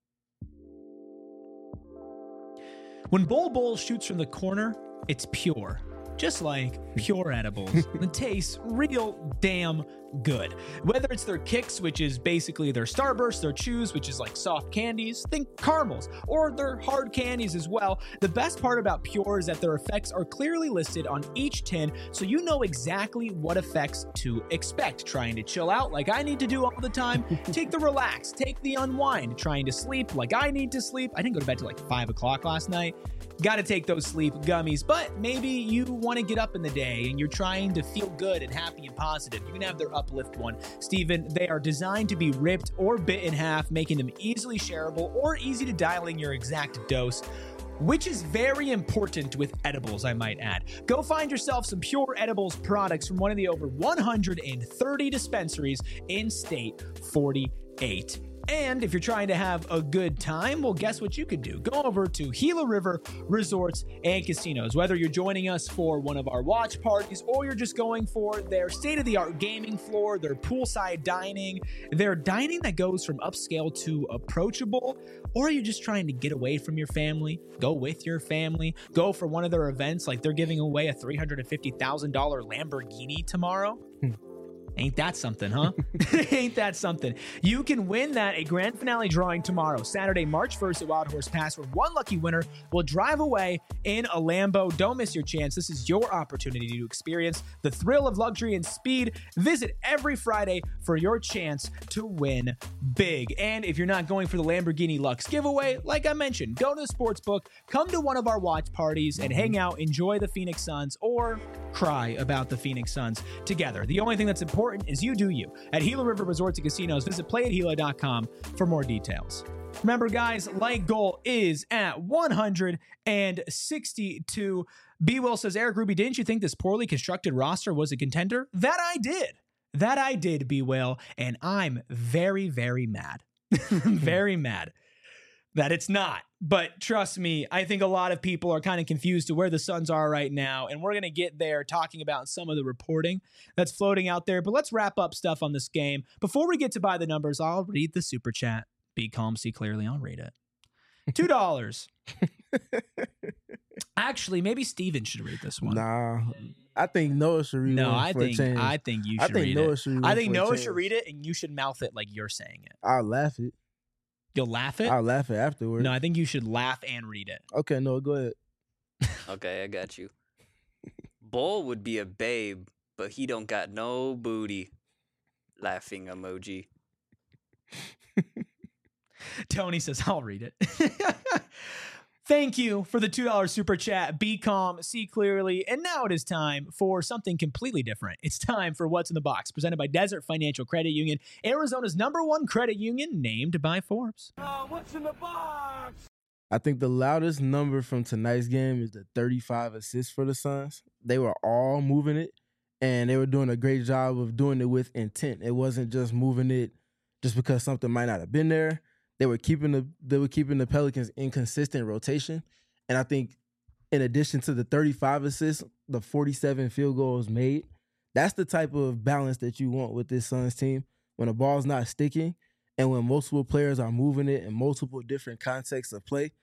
When Bol shoots from the corner, it's pure. Just like pure edibles. It tastes real damn good. Whether it's their kicks, which is basically their Starburst, their chews, which is like soft candies, think caramels, or their hard candies as well. The best part about Pure is that their effects are clearly listed on each tin, so you know exactly what effects to expect. Trying to chill out like I need to do all the time. Take the relax, take the unwind. Trying to sleep like I need to sleep. I didn't go to bed till like 5 o'clock last night. Got to take those sleep gummies, but maybe you want to get up in the day and you're trying to feel good and happy and positive. You can have their Uplift one. Steven, they are designed to be ripped or bit in half, making them easily shareable or easy to dial in your exact dose, which is very important with edibles, I might add. Go find yourself some Pure Edibles products from one of the over 130 dispensaries in state 48. And if you're trying to have a good time, well, guess what you could do? Go over to Gila River Resorts and Casinos. Whether you're joining us for one of our watch parties or you're just going for their state-of-the-art gaming floor, their poolside dining, their dining that goes from upscale to approachable, or you're just trying to get away from your family, go with your family, go for one of their events like they're giving away a $350,000 Lamborghini tomorrow. Ain't that something, huh? Ain't that something? You can win that a grand finale drawing tomorrow, Saturday, March 1st at Wild Horse Pass, where one lucky winner will drive away in a Lambo. Don't miss your chance. This is your opportunity to experience the thrill of luxury and speed. Visit every Friday for your chance to win big. And if you're not going for the Lamborghini Lux giveaway, like I mentioned, go to the sportsbook, come to one of our watch parties and hang out, enjoy the Phoenix Suns, or cry about the Phoenix Suns together. The only thing that's important is you do you. At Gila River Resorts and Casinos, visit playathila.com for more details. Remember, guys, light goal is at 162. B. Will says, Eric Ruby, didn't you think this poorly constructed roster was a contender? That I did, B. Will, and I'm very, very mad. Very mad that it's not. But trust me, I think a lot of people are kind of confused to where the Suns are right now, and we're going to get there talking about some of the reporting that's floating out there. But let's wrap up stuff on this game. Before we get to buy the numbers, I'll read the super chat. Be calm, see clearly, I'll read it. $2. Actually, maybe Steven should read this one. Nah, I think Noah should read it. I think you should read Noah it. should read I think for a Noah change. should read it, and you should mouth it like you're saying it. I'll laugh it. You'll laugh it? I'll laugh it afterwards. No, I think you should laugh and read it. Okay, Noah, go ahead. Okay, I got you. Bull would be a babe, but he don't got no booty. Laughing emoji. Tony says, I'll read it. Thank you for the $2 super chat. Be calm, see clearly. And now it is time for something completely different. It's time for What's in the Box, presented by Desert Financial Credit Union, Arizona's #1 credit union, named by Forbes. What's in the box? I think the loudest number from tonight's game is the 35 assists for the Suns. They were all moving it, and they were doing a great job of doing it with intent. It wasn't just moving it just because something might not have been there. They were keeping the Pelicans in consistent rotation. And I think in addition to the 35 assists, the 47 field goals made, that's the type of balance that you want with this Suns team. When the ball's not sticking and when multiple players are moving it in multiple different contexts of play,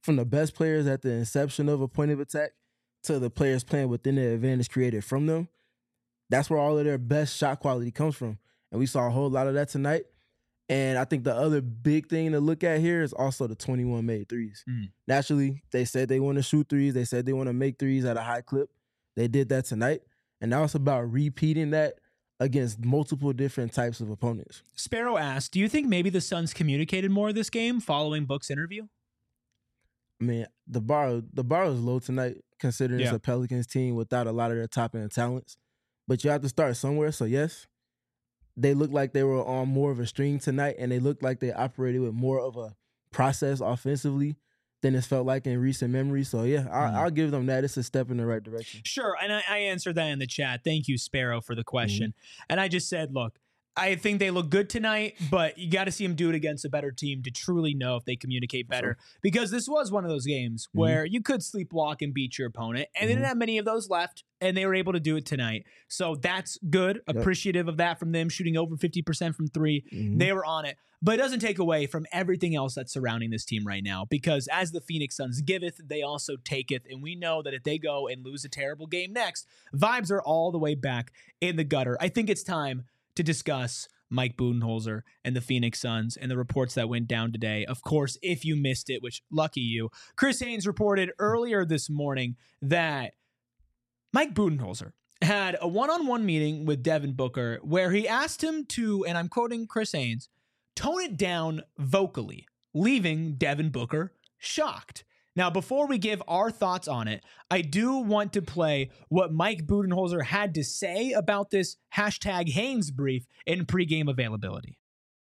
from the best players at the inception of a point of attack to the players playing within the advantage created from them. That's where all of their best shot quality comes from. And we saw a whole lot of that tonight. And I think the other big thing to look at here is also the 21 made threes. Naturally, they said they want to shoot threes. They said they want to make threes at a high clip. They did that tonight. And now it's about repeating that against multiple different types of opponents. Sparrow asked, do you think maybe the Suns communicated more this game following Book's interview? I mean, the bar is low tonight, considering it's a Pelicans team without a lot of their top-end talents. But you have to start somewhere, so yes. They looked like they were on more of a string tonight, and they looked like they operated with more of a process offensively than it's felt like in recent memory. So, yeah, I'll give them that. It's a step in the right direction. Sure, and I answered that in the chat. Thank you, Sparrow, for the question. And I just said, look, I think they look good tonight, but you got to see them do it against a better team to truly know if they communicate better. Because this was one of those games where you could sleepwalk and beat your opponent, and they didn't have many of those left, and they were able to do it tonight. So that's good. Appreciative of that from them, shooting over 50% from three. They were on it. But it doesn't take away from everything else that's surrounding this team right now, because as the Phoenix Suns giveth, they also taketh. And we know that if they go and lose a terrible game next, vibes are all the way back in the gutter. I think it's time to discuss Mike Budenholzer and the Phoenix Suns and the reports that went down today. Of course, if you missed it, which lucky you, Chris Haynes reported earlier this morning that Mike Budenholzer had a one-on-one meeting with Devin Booker where he asked him to, and I'm quoting Chris Haynes, tone it down vocally, leaving Devin Booker shocked. Now, before we give our thoughts on it, I do want to play what Mike Budenholzer had to say about this hashtag Haynes brief in pregame availability.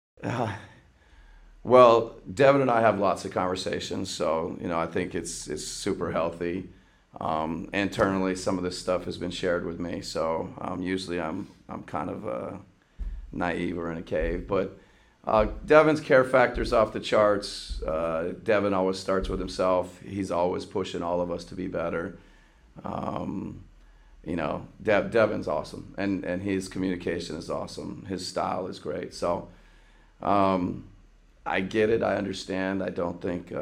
Well, Devin and I have lots of conversations, so I think it's super healthy. Internally, some of this stuff has been shared with me, so usually I'm kind of naive or in a cave, but Devin's care factor's off the charts. Devin always starts with himself. He's always pushing all of us to be better. Devin's awesome, and his communication is awesome. His style is great. So I get it. I understand. I don't think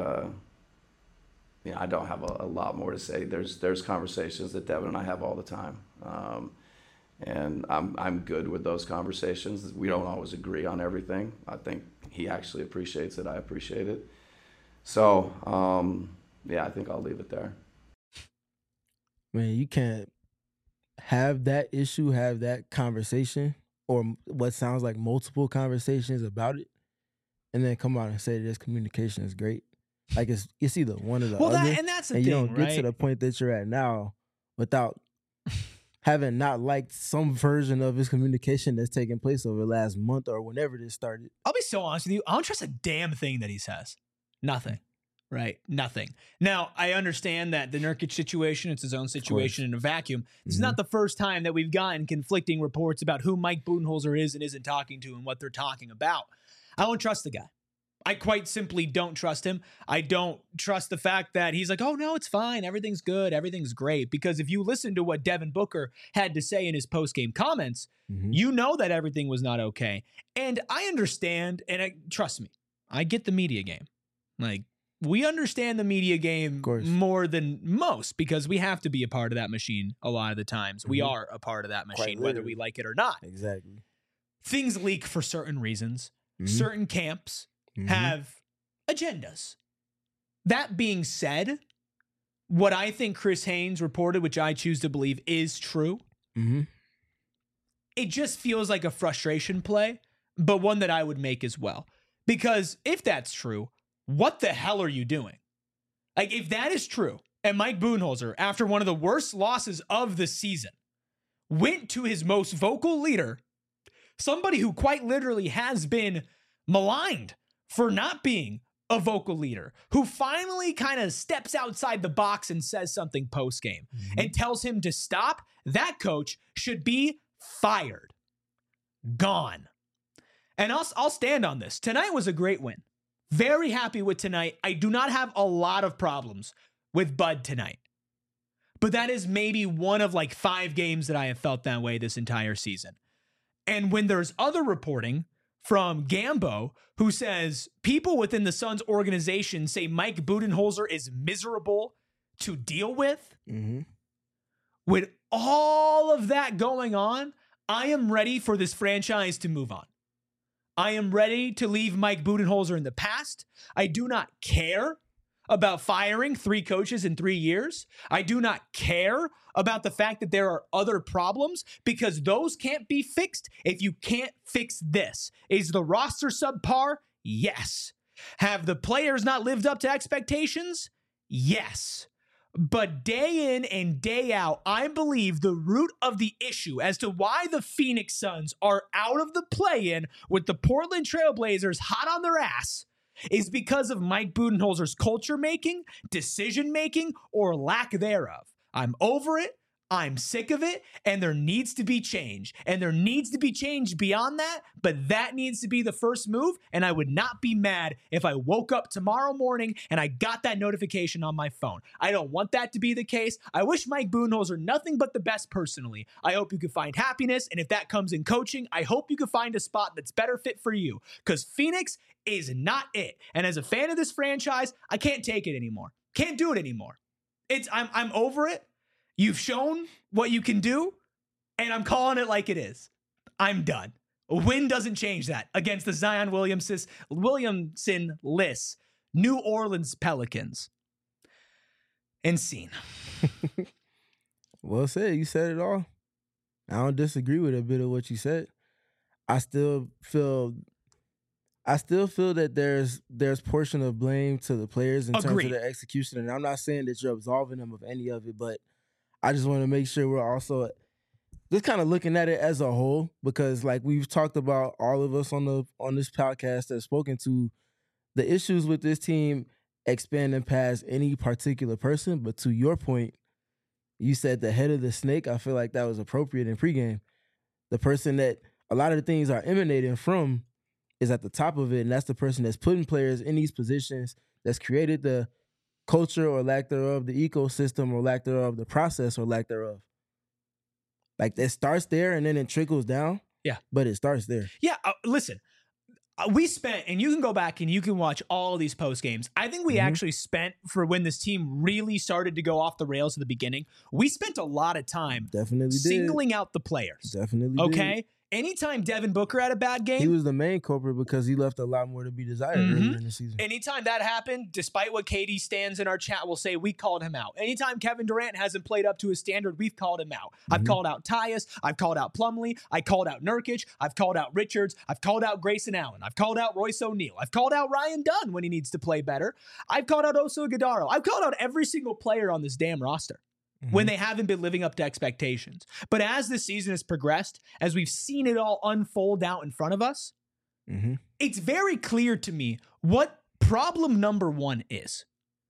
I don't have a lot more to say. There's conversations that Devin and I have all the time. And I'm good with those conversations. We don't always agree on everything. I think he actually appreciates it. I appreciate it. So, I think I'll leave it there. Man, you can't have that issue, have that conversation, or what sounds like multiple conversations about it, and then come out and say this communication is great. Like it's either one or the other. And that's the thing, you don't get right? to the point that you're at now without having not liked some version of his communication that's taken place over the last month or whenever this started. I'll be so honest with you. I don't trust a damn thing that he says. Nothing. Right? Nothing. Now, I understand that the Nurkic situation, it's his own situation in a vacuum. This is not the first time that we've gotten conflicting reports about who Mike Budenholzer is and isn't talking to and what they're talking about. I don't trust the guy. I quite simply don't trust him. I don't trust the fact that he's like, oh, no, it's fine. Everything's good. Everything's great. Because if you listen to what Devin Booker had to say in his post-game comments, you know that everything was not okay. And I understand, and trust me, I get the media game. Like, we understand the media game more than most because we have to be a part of that machine a lot of the times. We are a part of that machine, whether we like it or not. Exactly. Things leak for certain reasons. Certain camps have agendas. That being said, what I think Chris Haynes reported, which I choose to believe is true, it just feels like a frustration play, but one that I would make as well. Because if that's true, what the hell are you doing? Like, if that is true, and Mike Budenholzer, after one of the worst losses of the season, went to his most vocal leader, somebody who quite literally has been maligned for not being a vocal leader, who finally kind of steps outside the box and says something post-game and tells him to stop, that coach should be fired. Gone. And I'll stand on this. Tonight was a great win. Very happy with tonight. I do not have a lot of problems with Bud tonight. But that is maybe one of like 5 games that I have felt that way this entire season. And when there's other reporting from Gambo, who says people within the Suns organization say Mike Budenholzer is miserable to deal with. Mm-hmm. With all of that going on, I am ready for this franchise to move on. I am ready to leave Mike Budenholzer in the past. I do not care about firing 3 coaches in 3 years. I do not care about the fact that there are other problems, because those can't be fixed if you can't fix this. Is the roster subpar? Yes. Have the players not lived up to expectations? Yes. But day in and day out, I believe the root of the issue as to why the Phoenix Suns are out of the play-in with the Portland Trailblazers hot on their ass is because of Mike Budenholzer's culture making, decision making, or lack thereof. I'm over it. I'm sick of it, and there needs to be change. And there needs to be change beyond that, but that needs to be the first move, and I would not be mad if I woke up tomorrow morning and I got that notification on my phone. I don't want that to be the case. I wish Mike Budenholzer nothing but the best personally. I hope you can find happiness, and if that comes in coaching, I hope you can find a spot that's better fit for you, because Phoenix is not it. And as a fan of this franchise, I can't take it anymore. Can't do it anymore. I'm over it. You've shown what you can do, and I'm calling it like it is. I'm done. A win doesn't change that against the Zion Williamson-less New Orleans Pelicans. And scene. Well said. You said it all. I don't disagree with a bit of what you said. I still feel that there's portion of blame to the players in terms of their execution, and I'm not saying that you're absolving them of any of it, but I just want to make sure we're also just kind of looking at it as a whole, because like we've talked about, all of us on this podcast have spoken to the issues with this team expanding past any particular person. But to your point, you said the head of the snake. I feel like that was appropriate in pregame. The person that a lot of the things are emanating from is at the top of it, and that's the person that's putting players in these positions, that's created the culture or lack thereof, the ecosystem or lack thereof, the process or lack thereof. Like, it starts there and then it trickles down. Yeah. But it starts there. Yeah. Listen, we spent, and you can go back and you can watch all of these post games. I think we actually spent, for when this team really started to go off the rails at the beginning, we spent a lot of time singling out the players. Definitely okay? Anytime Devin Booker had a bad game, he was the main culprit because he left a lot more to be desired earlier in the season. Anytime that happened, despite what KD stands in our chat will say, we called him out. Anytime Kevin Durant hasn't played up to his standard, we've called him out. I've called out Tyus. I've called out Plumlee. I called out Nurkic. I've called out Richards. I've called out Grayson Allen. I've called out Royce O'Neal. I've called out Ryan Dunn when he needs to play better. I've called out Oso Ighodaro. I've called out every single player on this damn roster when they haven't been living up to expectations. But as this season has progressed, as we've seen it all unfold out in front of us, it's very clear to me what problem number one is.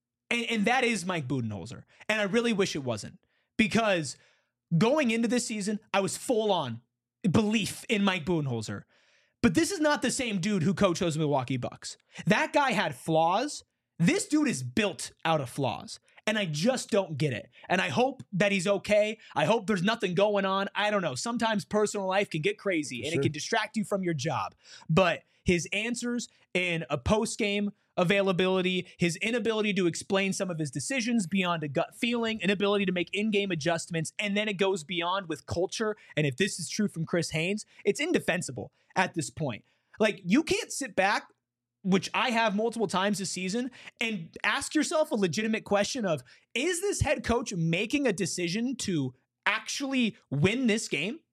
And that is Mike Budenholzer. And I really wish it wasn't. Because going into this season, I was full on belief in Mike Budenholzer. But this is not the same dude who coached those Milwaukee Bucks. That guy had flaws. This dude is built out of flaws. And I just don't get it. And I hope that he's okay. I hope there's nothing going on. I don't know. Sometimes personal life can get crazy and it can distract you from your job. But his answers in a post-game availability, his inability to explain some of his decisions beyond a gut feeling, inability to make in-game adjustments, and then it goes beyond with culture. And if this is true from Chris Haynes, it's indefensible at this point. Like, you can't sit back, which I have multiple times this season, and ask yourself a legitimate question of, is this head coach making a decision to actually win this game?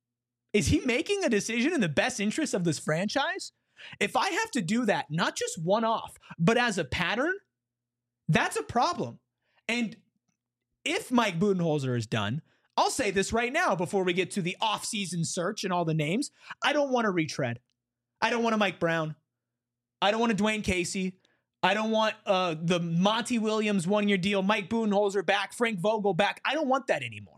Is he making a decision in the best interest of this franchise? If I have to do that, not just one-off, but as a pattern, that's a problem. And if Mike Budenholzer is done, I'll say this right now before we get to the off-season search and all the names, I don't want to retread. I don't want a Mike Brown. I don't want a Dwayne Casey. I don't want the Monty Williams one-year deal, Mike Budenholzer back, Frank Vogel back. I don't want that anymore.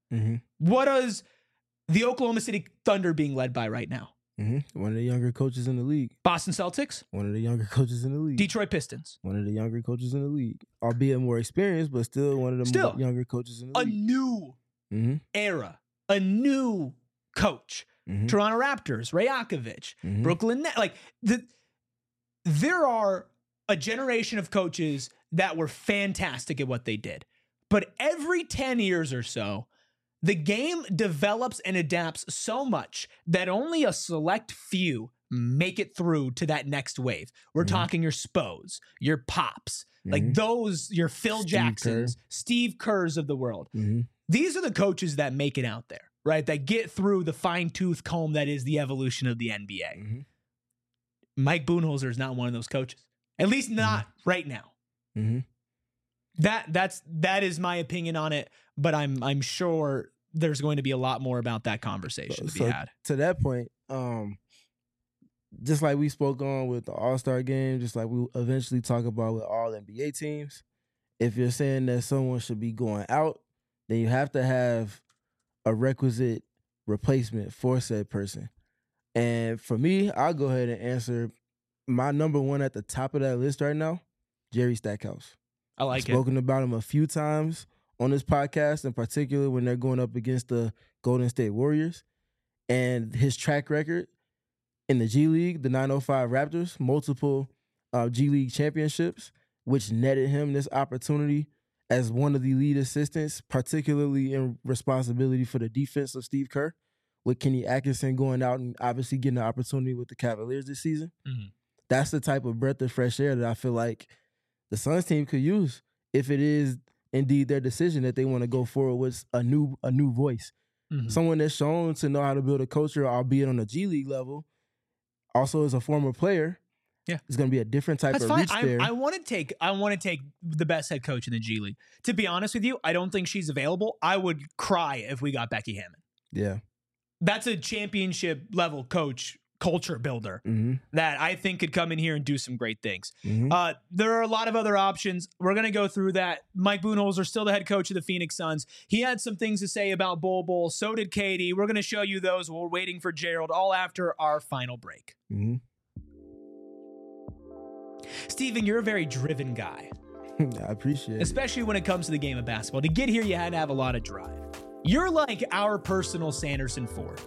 What is the Oklahoma City Thunder being led by right now? One of the younger coaches in the league. Boston Celtics? One of the younger coaches in the league. Detroit Pistons? One of the younger coaches in the league. Albeit more experienced, but still one of the younger coaches in the league. A new era. A new coach Toronto Raptors, Rajakovic, Brooklyn Nets. Like there are a generation of coaches that were fantastic at what they did. But every 10 years or so, the game develops and adapts so much that only a select few make it through to that next wave. We're talking your Spos, your Pops, like those, your Phil Jacksons, Steve Kerrs of the world. These are the coaches that make it out there, right? That get through the fine-tooth comb that is the evolution of the NBA. Mike Budenholzer is not one of those coaches. At least not right now. That is my opinion on it, but I'm sure there's going to be a lot more about that conversation to be had. To that point, just like we spoke on with the All-Star game, just like we eventually talk about with all NBA teams, if you're saying that someone should be going out, then you have to have a requisite replacement for said person. And for me, I'll go ahead and answer my number one at the top of that list right now, Jerry Stackhouse. I like I've spoken about him a few times on this podcast, in particular when they're going up against the Golden State Warriors. And his track record in the G League, the 905 Raptors, multiple G League championships, which netted him this opportunity as one of the lead assistants, particularly in responsibility for the defense of Steve Kerr, with Kenny Atkinson going out and obviously getting the opportunity with the Cavaliers this season. That's the type of breath of fresh air that I feel like the Suns team could use if it is indeed their decision that they want to go forward with a new voice. Someone that's shown to know how to build a culture, albeit on a G League level, also as a former player. Yeah, it's going to be a different type of reach there. I want to take the best head coach in the G League. To be honest with you, I don't think she's available. I would cry if we got Becky Hammon. Yeah, that's a championship level coach, culture builder that I think could come in here and do some great things. There are a lot of other options. We're going to go through that. Mike Budenholzer, still the head coach of the Phoenix Suns. He had some things to say about Bol Bol. So did Katie. We're going to show you those. We're waiting for Gerald all after our final break. Steven, you're a very driven guy. I appreciate it. Especially when it comes to the game of basketball. To get here, you had to have a lot of drive. You're like our personal Sanderson Ford.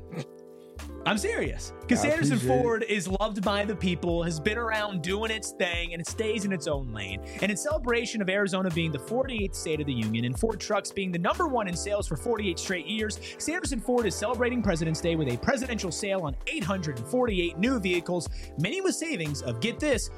I'm serious. Because Sanderson Ford is loved by the people, has been around doing its thing, and it stays in its own lane. And in celebration of Arizona being the 48th state of the union and Ford trucks being the #1 in sales for 48 straight years, Sanderson Ford is celebrating President's Day with a presidential sale on 848 new vehicles, many with savings of, get this,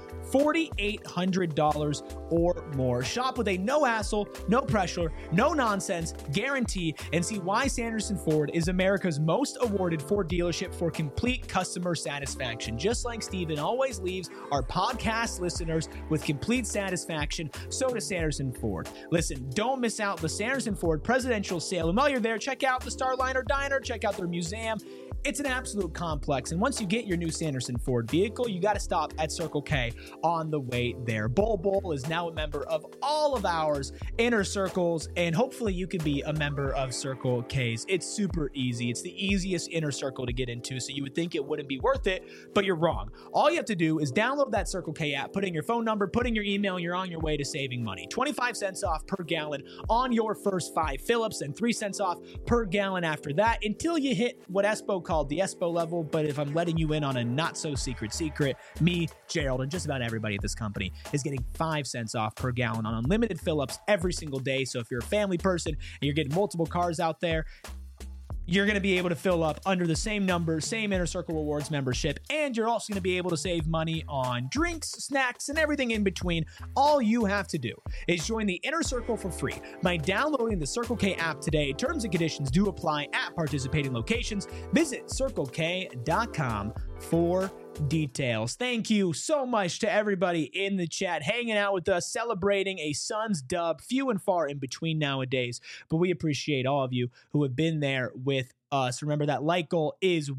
$4,800 or more. Shop with a no hassle, no pressure, no nonsense guarantee, and see why Sanderson Ford is America's most awarded Ford dealership for complete customer satisfaction. Just like Steven always leaves our podcast listeners with complete satisfaction, so does Sanderson Ford. Listen, don't miss out the Sanderson Ford presidential sale. And while you're there, check out the Starliner Diner, check out their museum. It's an absolute complex. And once you get your new Sanderson Ford vehicle, you got to stop at Circle K on the way there. Bol Bol is now a member of all of ours inner circles, and hopefully you can be a member of Circle K's. It's super easy. It's the easiest inner circle to get into, so you would think it wouldn't be worth it, but you're wrong. All you have to do is download that Circle K app, put in your phone number, put in your email, and you're on your way to saving money. 25 cents off per gallon on your first 5 fill-ups, and 3 cents off per gallon after that, until you hit what Espo called the Espo level. But if I'm letting you in on a not so secret, me, Gerald, and just about everybody at this company is getting 5 cents off per gallon on unlimited fill-ups every single day. So if you're a family person and you're getting multiple cars out there, you're going to be able to fill up under the same number, same Inner Circle Rewards membership, and you're also going to be able to save money on drinks, snacks, and everything in between. All you have to do is join the Inner Circle for free by downloading the Circle K app today. Terms and conditions do apply at participating locations. Visit CircleK.com for details. Thank you so much to everybody in the chat hanging out with us, celebrating a Suns dub, few and far in between nowadays, but we appreciate all of you who have been there with us. Remember, that like goal is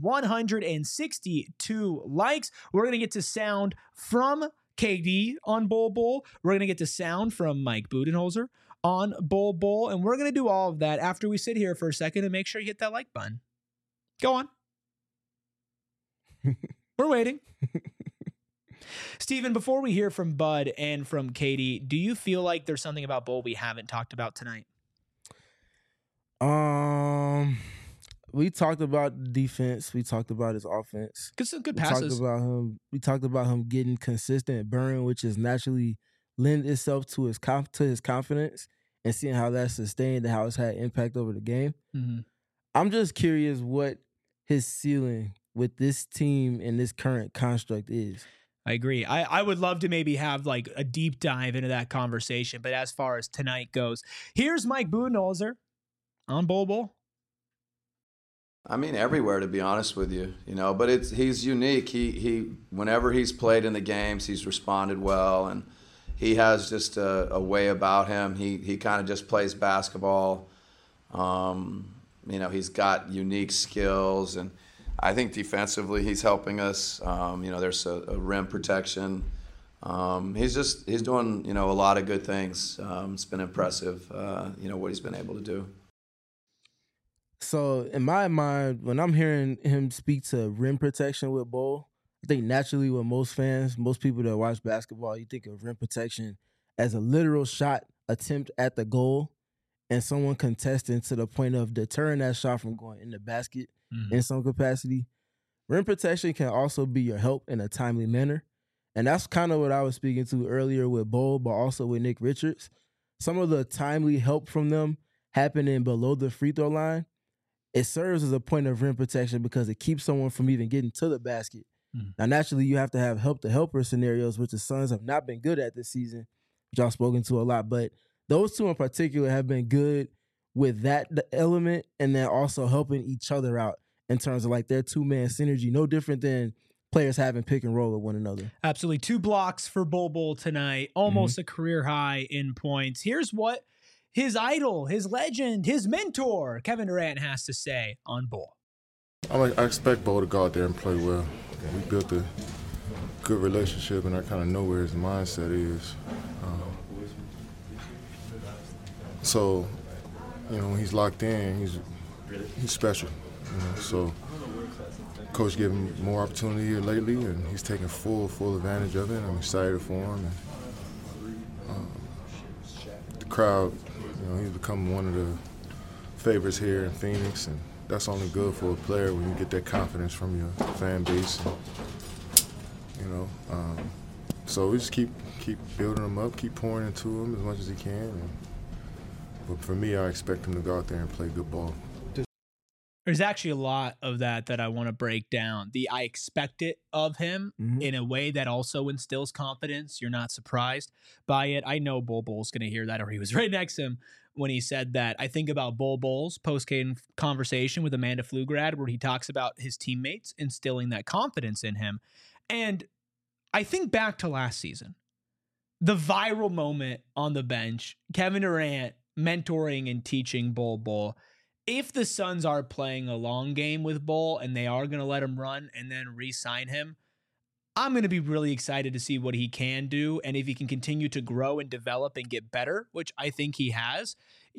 162 likes. We're going to get to sound from KD on Bol Bol. We're going to get to sound from Mike Budenholzer on Bol Bol, and we're going to do all of that after we sit here for a second and make sure you hit that like button. Go on. We're waiting. Steven, before we hear from Bud and from Katie, do you feel like there's something about Bol we haven't talked about tonight? we talked about the defense. We talked about his offense. Good, some good We passes. We talked about him getting consistent burn, which is naturally lend itself to his confidence, and seeing how that's sustained and how it's had impact over the game. Mhm. I'm just curious what his ceiling with this team and this current construct is. I agree. I would love to maybe have like a deep dive into that conversation. But as far as tonight goes, here's Mike Budenholzer on Bol Bol. I mean, everywhere, to be honest with you, but he's unique. He whenever he's played in the games, he's responded well, and he has just a way about him. He kind of just plays basketball. He's got unique skills, and I think defensively he's helping us. There's a rim protection. He's doing a lot of good things. It's been impressive. What he's been able to do. So in my mind, when I'm hearing him speak to rim protection with Bol, I think naturally with most people that watch basketball, you think of rim protection as a literal shot attempt at the goal and someone contesting to the point of deterring that shot from going in the basket in some capacity. Rim protection can also be your help in a timely manner. And that's kind of what I was speaking to earlier with Bol, but also with Nick Richards. Some of the timely help from them happening below the free throw line, it serves as a point of rim protection because it keeps someone from even getting to the basket. Now, naturally, you have to have help-to-helper scenarios, which the Suns have not been good at this season, which I've spoken to a lot. But those two in particular have been good with that element and then also helping each other out in terms of like their two-man synergy, no different than players having pick and roll with one another. Absolutely. 2 blocks for Bol Bol tonight, almost a career high in points. Here's what his idol, his legend, his mentor, Kevin Durant, has to say on Bol. I expect Bol to go out there and play well. We built a good relationship, and I kind of know where his mindset is. So, when he's locked in, he's special. So, coach gave him more opportunity here lately, and he's taking full advantage of it. I'm excited for him. And, the crowd, he's become one of the favorites here in Phoenix, and that's only good for a player when you get that confidence from your fan base. And, so we just keep building him up, keep pouring into him as much as he can. But for me, I expect him to go out there and play good ball. There's actually a lot of that I want to break down. I expect it of him in a way that also instills confidence. You're not surprised by it. I know Bol Bol's going to hear that, or he was right next to him when he said that. I think about Bol Bol's post-game conversation with Amanda Pflugrad, where he talks about his teammates instilling that confidence in him. And I think back to last season, the viral moment on the bench, Kevin Durant mentoring and teaching Bol Bol. If the Suns are playing a long game with Bol and they are going to let him run and then re-sign him, I'm going to be really excited to see what he can do. And if he can continue to grow and develop and get better, which I think he has,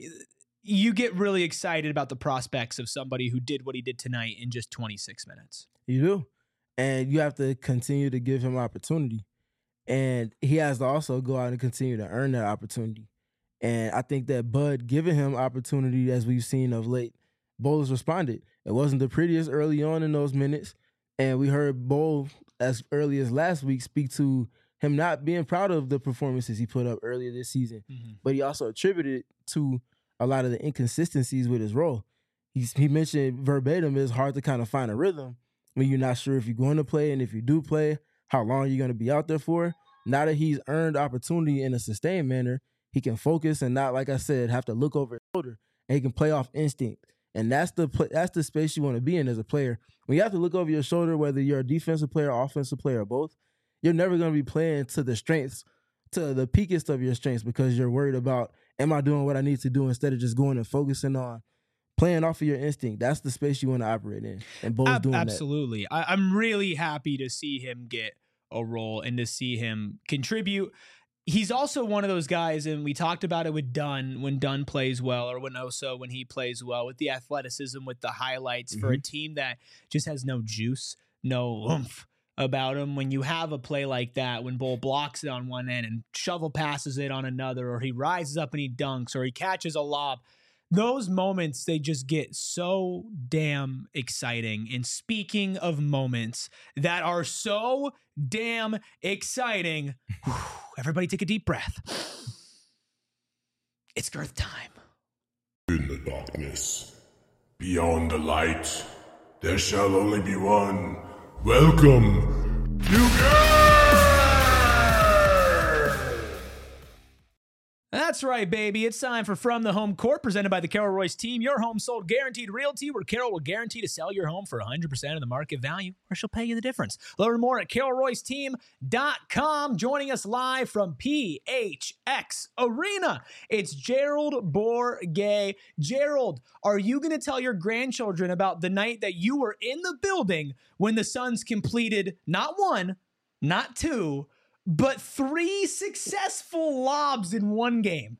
you get really excited about the prospects of somebody who did what he did tonight in just 26 minutes. You do. And you have to continue to give him opportunity. And he has to also go out and continue to earn that opportunity. And I think that Bud giving him opportunity, as we've seen of late, Bol has responded. It wasn't the prettiest early on in those minutes. And we heard Bol, as early as last week, speak to him not being proud of the performances he put up earlier this season. But he also attributed it to a lot of the inconsistencies with his role. He mentioned verbatim, it's hard to kind of find a rhythm when you're not sure if you're going to play, and if you do play, how long you're going to be out there for. Now that he's earned opportunity in a sustained manner, he can focus and not, like I said, have to look over his shoulder, and he can play off instinct. And that's the space you want to be in as a player. When you have to look over your shoulder, whether you're a defensive player, offensive player, or both, you're never going to be playing to the strengths, to the peakest of your strengths, because you're worried about, am I doing what I need to do, instead of just going and focusing on playing off of your instinct. That's the space you want to operate in. And Bol's doing that. Absolutely. I'm really happy to see him get a role and to see him contribute. He's also one of those guys, and we talked about it with Dunn, when Dunn plays well, or when he plays well, with the athleticism, with the highlights for a team that just has no juice, no oomph about him. When you have a play like that, when Bol blocks it on one end and shovel passes it on another, or he rises up and he dunks, or he catches a lob, those moments, they just get so damn exciting. And speaking of moments that are so damn exciting, everybody take a deep breath. It's Girth time. In the darkness, beyond the light, there shall only be one. Welcome, That's right, baby. It's time for From the Home Court, presented by the Carol Royce team. Your home sold guaranteed realty, where Carol will guarantee to sell your home for 100% of the market value, or she'll pay you the difference. Learn more at carolroyceteam.com. Joining us live from PHX Arena, it's Gerald Bourguet. Gerald, are you going to tell your grandchildren about the night that you were in the building when the Suns completed not one, not two, but 3 successful lobs in one game?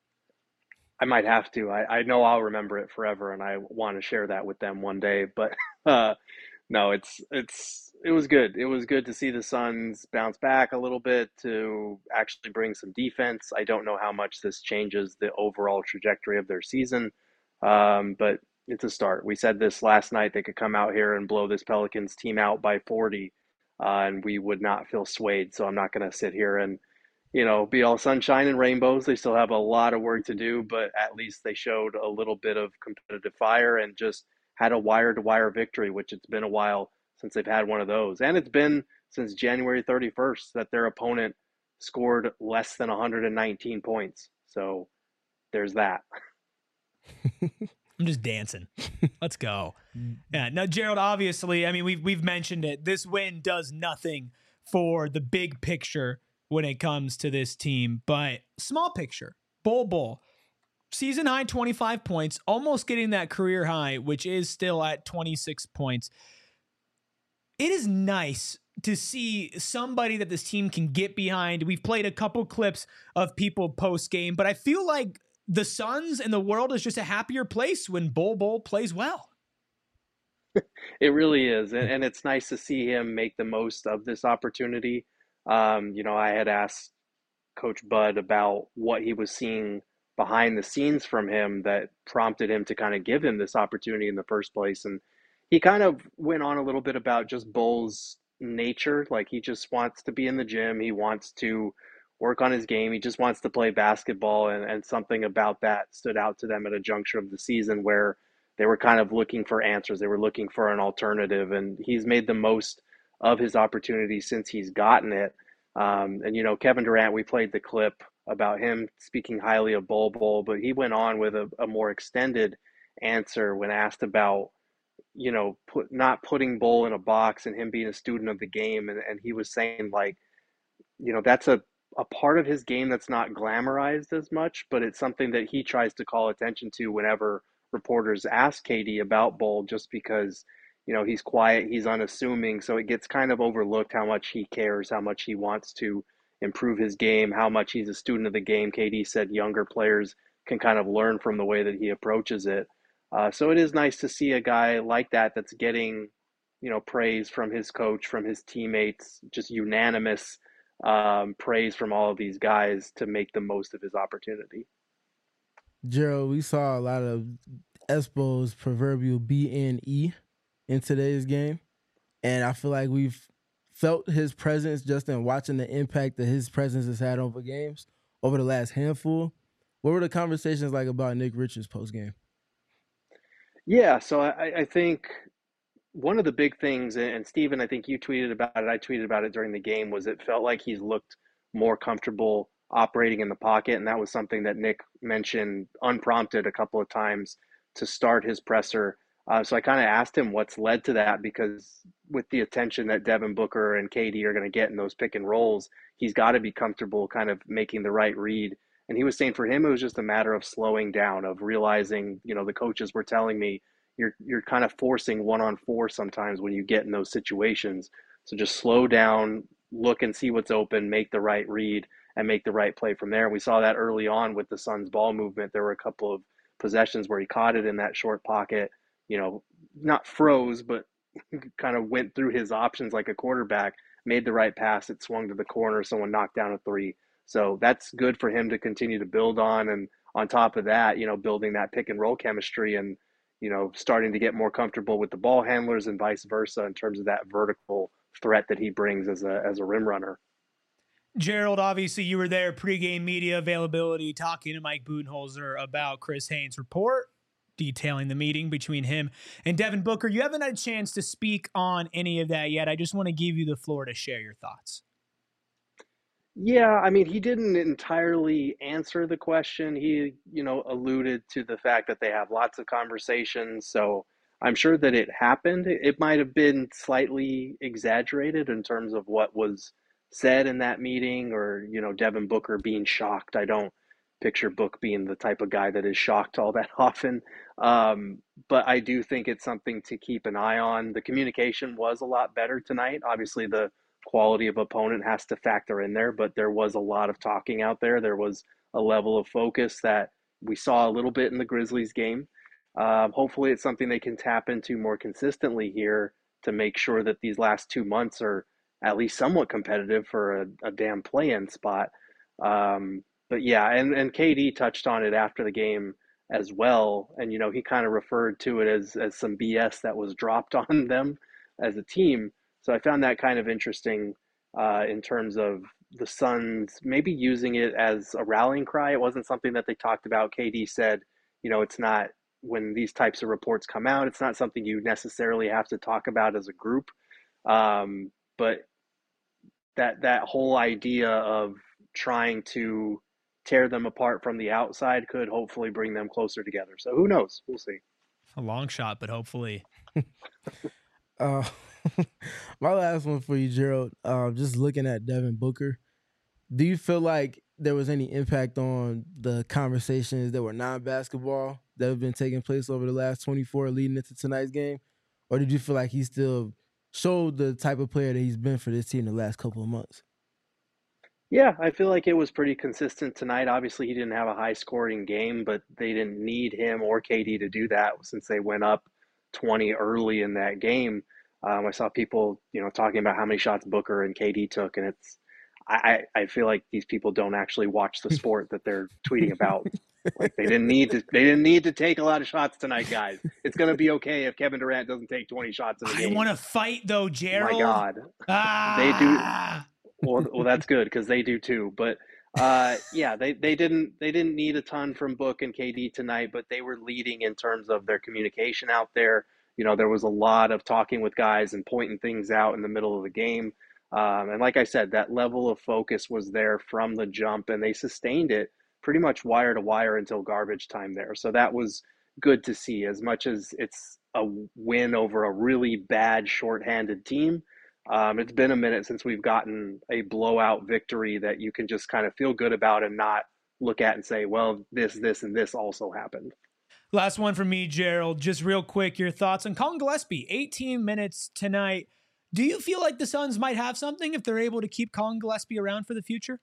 I might have to. I know I'll remember it forever, and I want to share that with them one day. But no, it was good. It was good to see the Suns bounce back a little bit, to actually bring some defense. I don't know how much this changes the overall trajectory of their season, but it's a start. We said this last night. They could come out here and blow this Pelicans team out by 40. And we would not feel swayed. So I'm not going to sit here and, be all sunshine and rainbows. They still have a lot of work to do, but at least they showed a little bit of competitive fire and just had a wire-to-wire victory, which it's been a while since they've had one of those. And it's been since January 31st that their opponent scored less than 119 points. So there's that. I'm just dancing. Let's go. Yeah. Now, Gerald, obviously, I mean, we've mentioned it. This win does nothing for the big picture when it comes to this team, but small picture, Bol, season high 25 points, almost getting that career high, which is still at 26 points. It is nice to see somebody that this team can get behind. We've played a couple clips of people post game, but I feel like the Suns and the world is just a happier place when Bol plays well. It really is. And it's nice to see him make the most of this opportunity. I had asked Coach Bud about what he was seeing behind the scenes from him that prompted him to kind of give him this opportunity in the first place. And he kind of went on a little bit about just Bol's nature. Like, he just wants to be in the gym. He wants to work on his game. He just wants to play basketball, and something about that stood out to them at a juncture of the season where they were kind of looking for answers. They were looking for an alternative, and he's made the most of his opportunity since he's gotten it. Kevin Durant, we played the clip about him speaking highly of Bol, but he went on with a more extended answer when asked about, not putting Bol in a box and him being a student of the game. And he was saying, like, that's a part of his game that's not glamorized as much, but it's something that he tries to call attention to whenever reporters ask KD about Bol, just because, he's quiet, he's unassuming. So it gets kind of overlooked how much he cares, how much he wants to improve his game, how much he's a student of the game. KD said younger players can kind of learn from the way that he approaches it. So it is nice to see a guy like that that's getting, praise from his coach, from his teammates, just unanimous praise from all of these guys to make the most of his opportunity. Gerald, we saw a lot of Espo's proverbial BNE in today's game, and I feel like we've felt his presence just in watching the impact that his presence has had over games over the last handful. What were the conversations like about Nick Richards post-game? Yeah, so I think one of the big things, and Steven, I think you tweeted about it, I tweeted about it during the game, was it felt like he's looked more comfortable operating in the pocket, and that was something that Nick mentioned unprompted a couple of times to start his presser. So I kind of asked him what's led to that, because with the attention that Devin Booker and KD are going to get in those pick and rolls, he's got to be comfortable kind of making the right read. And he was saying for him, it was just a matter of slowing down, of realizing, the coaches were telling me, you're kind of forcing 1-on-4 sometimes when you get in those situations. So just slow down, look and see what's open, make the right read, and make the right play from there. And we saw that early on with the Suns' ball movement. There were a couple of possessions where he caught it in that short pocket, not froze, but kind of went through his options like a quarterback, made the right pass, it swung to the corner, someone knocked down a three. So that's good for him to continue to build on. And on top of that, building that pick and roll chemistry and, starting to get more comfortable with the ball handlers and vice versa in terms of that vertical threat that he brings as a rim runner. Gerald, obviously you were there, pregame media availability, talking to Mike Budenholzer about Chris Haynes' report, detailing the meeting between him and Devin Booker. You haven't had a chance to speak on any of that yet. I just want to give you the floor to share your thoughts. Yeah, I mean, he didn't entirely answer the question. He, alluded to the fact that they have lots of conversations. So I'm sure that it happened. It might have been slightly exaggerated in terms of what was said in that meeting or, Devin Booker being shocked. I don't picture Book being the type of guy that is shocked all that often. But I do think it's something to keep an eye on. The communication was a lot better tonight. Obviously, the quality of opponent has to factor in there, but there was a lot of talking out there. There was a level of focus that we saw a little bit in the Grizzlies game. Hopefully it's something they can tap into more consistently here to make sure that these last 2 months are at least somewhat competitive for a damn play-in spot. But yeah, and KD touched on it after the game as well. And, he kind of referred to it as some BS that was dropped on them as a team. So I found that kind of interesting in terms of the Suns maybe using it as a rallying cry. It wasn't something that they talked about. KD said, it's not, when these types of reports come out, it's not something you necessarily have to talk about as a group. But that whole idea of trying to tear them apart from the outside could hopefully bring them closer together. So who knows? We'll see. A long shot, but hopefully. My last one for you, Gerald. Just looking at Devin Booker, do you feel like there was any impact on the conversations that were non-basketball that have been taking place over the last 24 leading into tonight's game? Or did you feel like he still showed the type of player that he's been for this team the last couple of months? Yeah, I feel like it was pretty consistent tonight. Obviously, he didn't have a high-scoring game, but they didn't need him or KD to do that since they went up 20 early in that game. I saw people, talking about how many shots Booker and KD took, and I feel like these people don't actually watch the sport that they're tweeting about. Like they didn't need to take a lot of shots tonight, guys. It's gonna be okay if Kevin Durant doesn't take 20 shots in the game. I want to fight though, Gerald. My God, they do. Well, that's good because they do too. But yeah, they didn't need a ton from Book and KD tonight, but they were leading in terms of their communication out there. There was a lot of talking with guys and pointing things out in the middle of the game. And like I said, that level of focus was there from the jump, and they sustained it pretty much wire to wire until garbage time there. So that was good to see. As much as it's a win over a really bad shorthanded team, it's been a minute since we've gotten a blowout victory that you can just kind of feel good about and not look at and say, well, this, and this also happened. Last one from me, Gerald. Just real quick, your thoughts on Colin Gillespie. 18 minutes tonight. Do you feel like the Suns might have something if they're able to keep Colin Gillespie around for the future?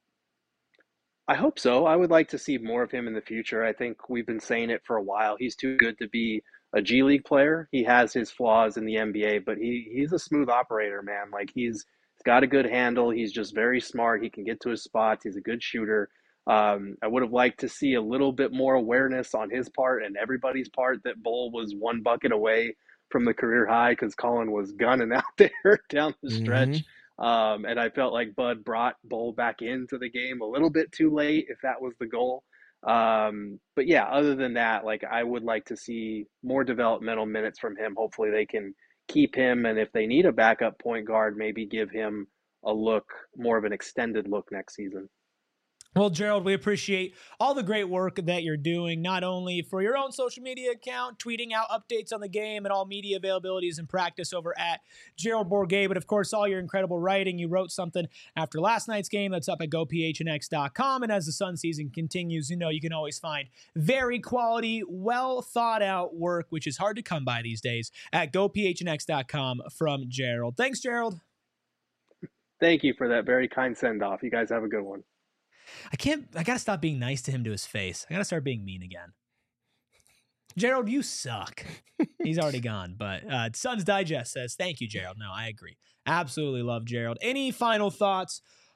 I hope so. I would like to see more of him in the future. I think we've been saying it for a while. He's too good to be a G League player. He has his flaws in the NBA, but he's a smooth operator, man. Like he's got a good handle. He's just very smart. He can get to his spots. He's a good shooter. I would have liked to see a little bit more awareness on his part and everybody's part that Bull was one bucket away from the career high because Colin was gunning out there down the stretch. And I felt like Bud brought Bull back into the game a little bit too late, if that was the goal. But yeah, other than that, like I would like to see more developmental minutes from him. Hopefully they can keep him. And if they need a backup point guard, maybe give him a look, more of an extended look next season. Well, Gerald, we appreciate all the great work that you're doing, not only for your own social media account, tweeting out updates on the game and all media availabilities and practice over at Gerald Bourguet, but of course, all your incredible writing. You wrote something after last night's game that's up at gophnx.com. And as the Sun season continues, you can always find very quality, well thought out work, which is hard to come by these days, at gophnx.com from Gerald. Thanks, Gerald. Thank you for that very kind send off. You guys have a good one. I gotta stop being nice to him to his face. I gotta start being mean again. Gerald, you suck. He's already gone, but Suns Digest says, thank you, Gerald. No, I agree. Absolutely love Gerald. Any final thoughts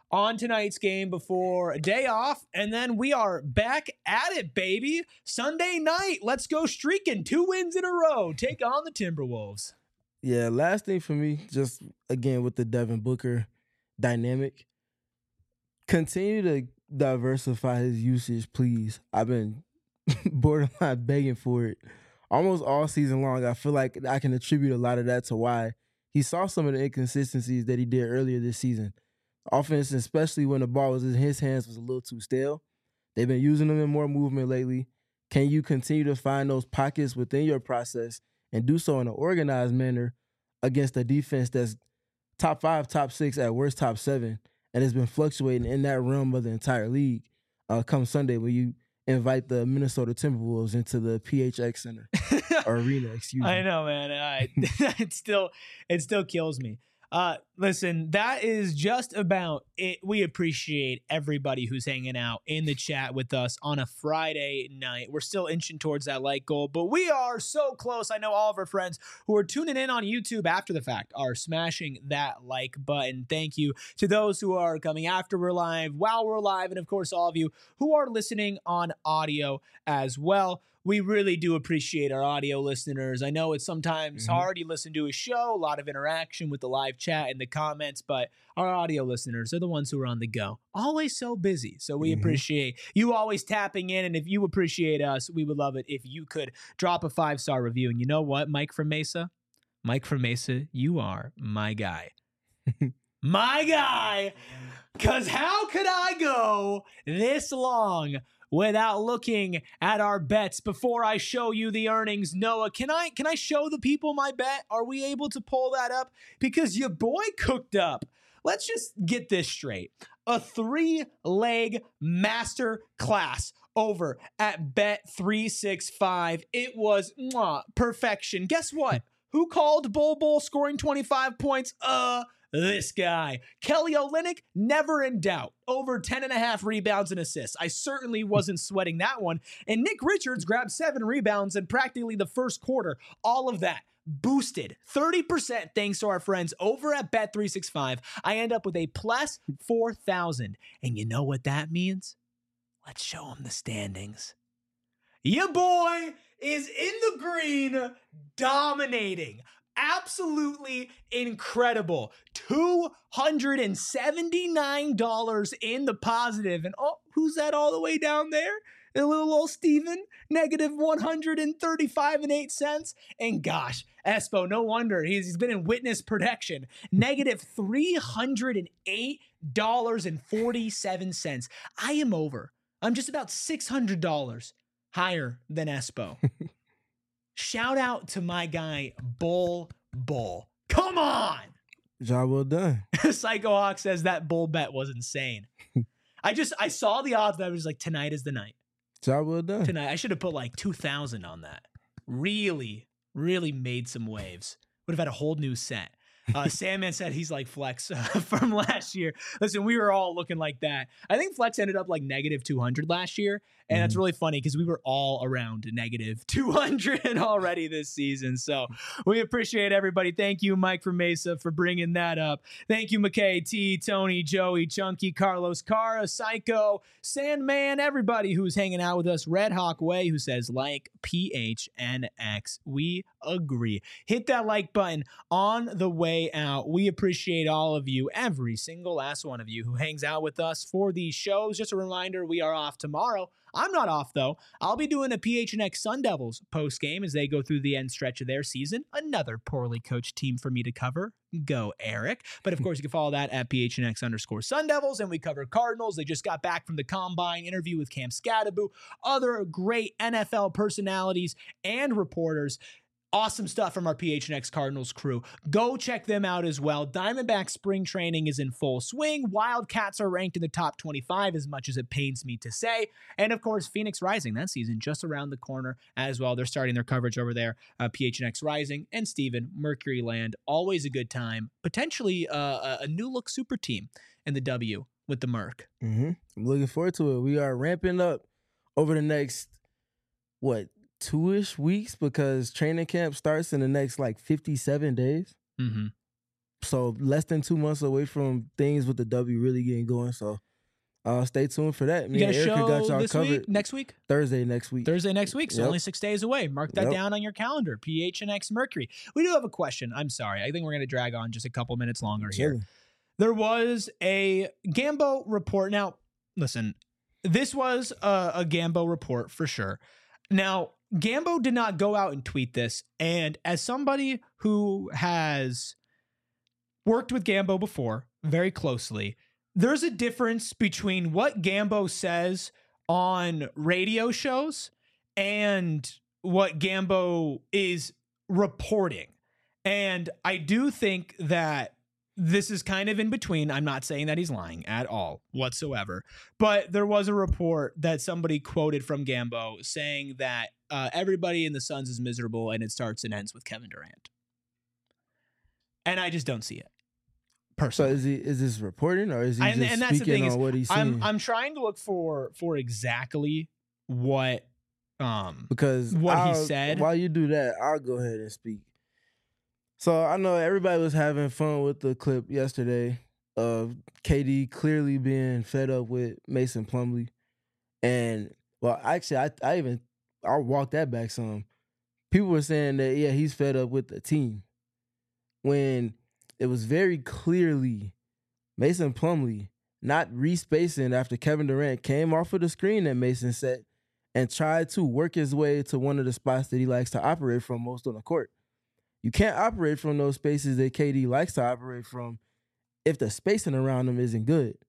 on tonight's game before a day off, and then we are back at it, baby. Sunday night, let's go streaking. 2 wins in a row. Take on the Timberwolves. Yeah, last thing for me, just again with the Devin Booker dynamic, continue to diversify his usage, please. I've been borderline begging for it almost all season long. I feel like I can attribute a lot of that to why he saw some of the inconsistencies that he did earlier this season. Offense, especially when the ball was in his hands, was a little too stale. They've been using him in more movement lately. Can you continue to find those pockets within your process and do so in an organized manner against a defense that's top 5, top 6, at worst top 7, and has been fluctuating in that realm of the entire league come Sunday when you invite the Minnesota Timberwolves into the PHX Center or arena, excuse me. I know, man. It still kills me. Listen, that is just about it. We appreciate everybody who's hanging out in the chat with us on a Friday night. We're still inching towards that like goal, but we are so close. I know all of our friends who are tuning in on YouTube after the fact are smashing that like button. Thank you to those who are coming after we're live, while we're live, and of course, all of you who are listening on audio as well. We really do appreciate our audio listeners. I know it's sometimes hard. You listen to a show, a lot of interaction with the live chat and the comments, but our audio listeners are the ones who are on the go. Always so busy. So we appreciate you always tapping in. And if you appreciate us, we would love it if you could drop a 5-star review. And you know what, Mike from Mesa? Mike from Mesa, you are my guy. My guy. Because how could I go this long without looking at our bets before I show you the earnings? Noah, can I show the people my bet? Are we able to pull that up? Because your boy cooked up. Let's just get this straight. A 3-leg master class over at Bet365. It was perfection. Guess what? Who called Bol scoring 25 points? This guy. Kelly Olynyk, never in doubt. Over 10.5 rebounds and assists. I certainly wasn't sweating that one. And Nick Richards grabbed 7 rebounds in practically the first quarter. All of that boosted 30% thanks to our friends over at Bet365. I end up with a plus 4,000. And you know what that means? Let's show them the standings. Your boy is in the green, dominating. Absolutely incredible. $279 in the positive. And who's that all the way down there? A little old Steven, negative 135 and 8 cents. And gosh, Espo, no wonder he's been in witness protection. Negative $308.47. I am over. I'm just about $600 higher than Espo. Shout out to my guy, Bull. Come on! Job well done. Psycho Hawk says that bull bet was insane. I saw the odds and I was like, tonight is the night. Job well done. Tonight. I should have put like 2,000 on that. Really, really made some waves. Would have had a whole new set. Sandman said he's like Flex from last year. Listen, we were all looking like that. I think Flex ended up like negative 200 last year. And that's really funny because we were all around negative 200 already this season. So we appreciate everybody. Thank you, Mike from Mesa, for bringing that up. Thank you, McKay, T, Tony, Joey, Chunky, Carlos, Cara, Psycho, Sandman, everybody who's hanging out with us. Red Hawk Way, who says like PHNX. We agree. Hit that like button on the way out. We appreciate all of you, every single last one of you who hangs out with us for these shows. Just a reminder, we are off tomorrow. I'm not off, though. I'll be doing a PHNX Sun Devils post-game as they go through the end stretch of their season. Another poorly coached team for me to cover. Go, Eric. But, of course, you can follow that at PHNX_Sun Devils. And we cover Cardinals. They just got back from the Combine interview with Cam Scadaboo. Other great NFL personalities and reporters. Awesome stuff from our PHNX Cardinals crew. Go check them out as well. Diamondback spring training is in full swing. Wildcats are ranked in the top 25, as much as it pains me to say. And of course, Phoenix Rising, that season just around the corner as well. They're starting their coverage over there. PHNX Rising and Steven, Mercury Land. Always a good time. Potentially a new look super team in the W with the Merc. I'm looking forward to it. We are ramping up over the next, 2-ish weeks, because training camp starts in the next 57 days. So less than 2 months away from things with the W really getting going. So stay tuned for that. Me You got and a Erica show got y'all this covered. week, next week? Thursday next week. Thursday next week, so Yep. only 6 days away. Mark that Yep. down on your calendar. PHNX Mercury. We do have a question. I'm sorry. I think we're going to drag on just a couple minutes longer here. Chilling. There was a Gambo report. Now, listen, this was a Gambo report for sure. Now, Gambo did not go out and tweet this. And as somebody who has worked with Gambo before very closely, there's a difference between what Gambo says on radio shows and what Gambo is reporting. And I do think that this is kind of in between. I'm not saying that he's lying at all whatsoever, but there was a report that somebody quoted from Gambo saying that everybody in the Suns is miserable and it starts and ends with Kevin Durant. And I just don't see it. So Personally. is this reporting or is he And just that's the thing speaking is, on what he's seeing? I'm trying to look for exactly what Because what he I'll- said. While you do that, I'll go ahead and speak. So I know everybody was having fun with the clip yesterday of KD clearly being fed up with Mason Plumlee. And well, actually I'll walk that back some. People were saying that yeah, he's fed up with the team. When it was very clearly Mason Plumlee not respacing after Kevin Durant came off of the screen that Mason set and tried to work his way to one of the spots that he likes to operate from most on the court. You can't operate from those spaces that KD likes to operate from if the spacing around him isn't good.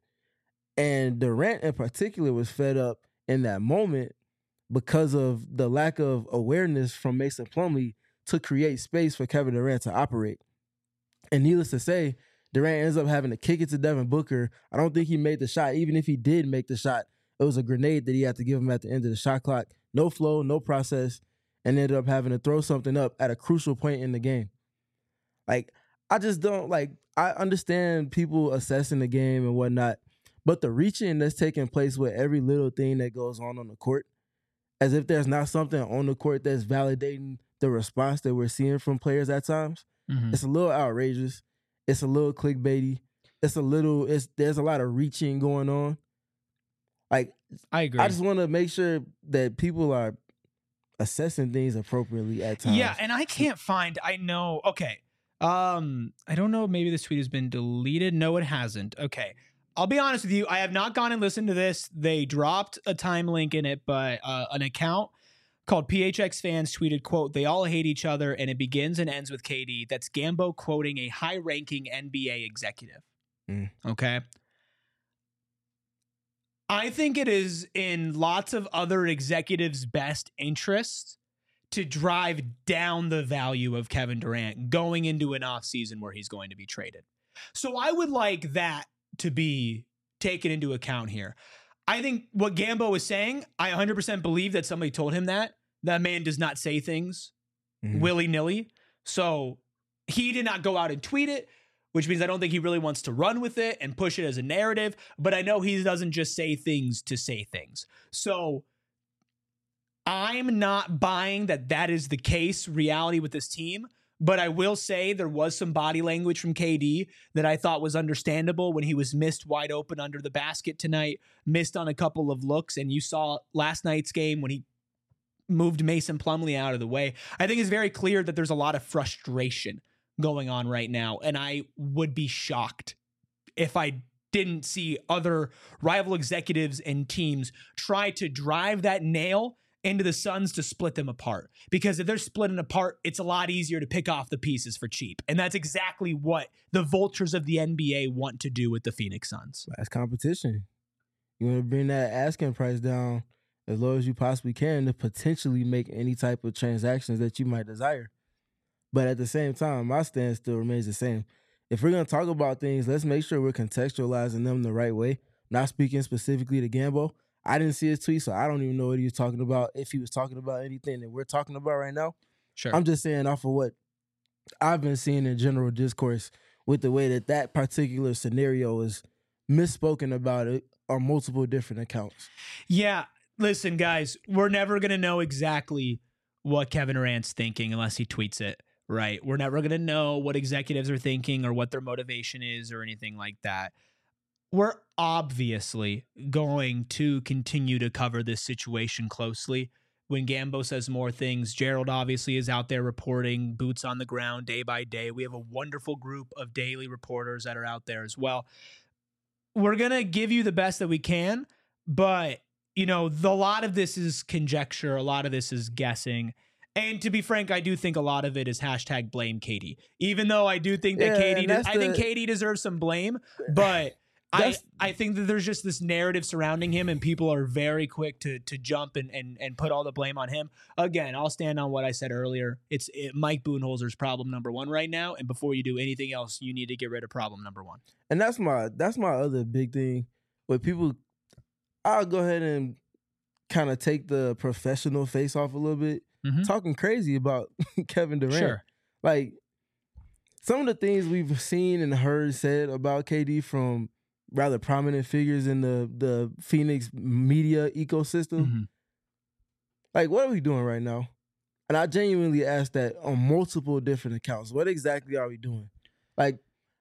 And Durant in particular was fed up in that moment because of the lack of awareness from Mason Plumlee to create space for Kevin Durant to operate. And needless to say, Durant ends up having to kick it to Devin Booker. I don't think he made the shot. Even if he did make the shot, it was a grenade that he had to give him at the end of the shot clock. No flow, no process, and ended up having to throw something up at a crucial point in the game. Like, I just don't, like, I understand people assessing the game and whatnot, but the reaching that's taking place with every little thing that goes on the court, as if there's not something on the court that's validating the response that we're seeing from players at times, it's a little outrageous. It's a little clickbaity. There's a lot of reaching going on. Like, I agree. I just want to make sure that people are assessing things appropriately at times. Yeah, and I can't find. I know. Okay. I don't know. Maybe this tweet has been deleted. No, it hasn't. Okay. I'll be honest with you. I have not gone and listened to this. They dropped a time link in it, but an account called PHX Fans tweeted, quote, "They all hate each other and it begins and ends with KD." That's Gambo quoting a high-ranking NBA executive. Okay. I think it is in lots of other executives' best interest to drive down the value of Kevin Durant going into an offseason where he's going to be traded. So I would like that to be taken into account here. I think what Gambo is saying, I 100% believe that somebody told him that. That man does not say things willy-nilly. So he did not go out and tweet it, which means I don't think he really wants to run with it and push it as a narrative. But I know he doesn't just say things to say things. So I'm not buying that is the case reality with this team. But I will say there was some body language from KD that I thought was understandable when he was missed wide open under the basket tonight, missed on a couple of looks. And you saw last night's game when he moved Mason Plumlee out of the way. I think it's very clear that there's a lot of frustration going on right now. And I would be shocked if I didn't see other rival executives and teams try to drive that nail into the Suns to split them apart. Because if they're splitting apart, it's a lot easier to pick off the pieces for cheap. And that's exactly what the vultures of the NBA want to do with the Phoenix Suns. That's competition. You want to bring that asking price down as low as you possibly can to potentially make any type of transactions that you might desire. But at the same time, my stance still remains the same. If we're going to talk about things, let's make sure we're contextualizing them the right way. Not speaking specifically to Gambo. I didn't see his tweet, so I don't even know what he was talking about, if he was talking about anything that we're talking about right now. Sure. I'm just saying off of what I've been seeing in general discourse with the way that particular scenario is misspoken about it on multiple different accounts. Yeah. Listen, guys, we're never going to know exactly what Kevin Durant's thinking unless he tweets it right? We're never going to know what executives are thinking or what their motivation is or anything like that. We're obviously going to continue to cover this situation closely. When Gambo says more things, Gerald obviously is out there reporting, boots on the ground day by day. We have a wonderful group of daily reporters that are out there as well. We're going to give you the best that we can, but, you know, a lot of this is conjecture. A lot of this is guessing. And to be frank, I do think a lot of it is hashtag blame Katie. Even though I do think that I think Katie deserves some blame, but I think that there's just this narrative surrounding him, and people are very quick to jump and put all the blame on him. Again, I'll stand on what I said earlier. It's Mike Budenholzer's problem number one right now, and before you do anything else, you need to get rid of problem number one. And that's my other big thing with people. I'll go ahead and kind of take the professional face off a little bit, talking crazy about Kevin Durant. Sure. Like, some of the things we've seen and heard said about KD from rather prominent figures in the Phoenix media ecosystem. Like, what are we doing right now? And I genuinely asked that on multiple different accounts. What exactly are we doing? Like,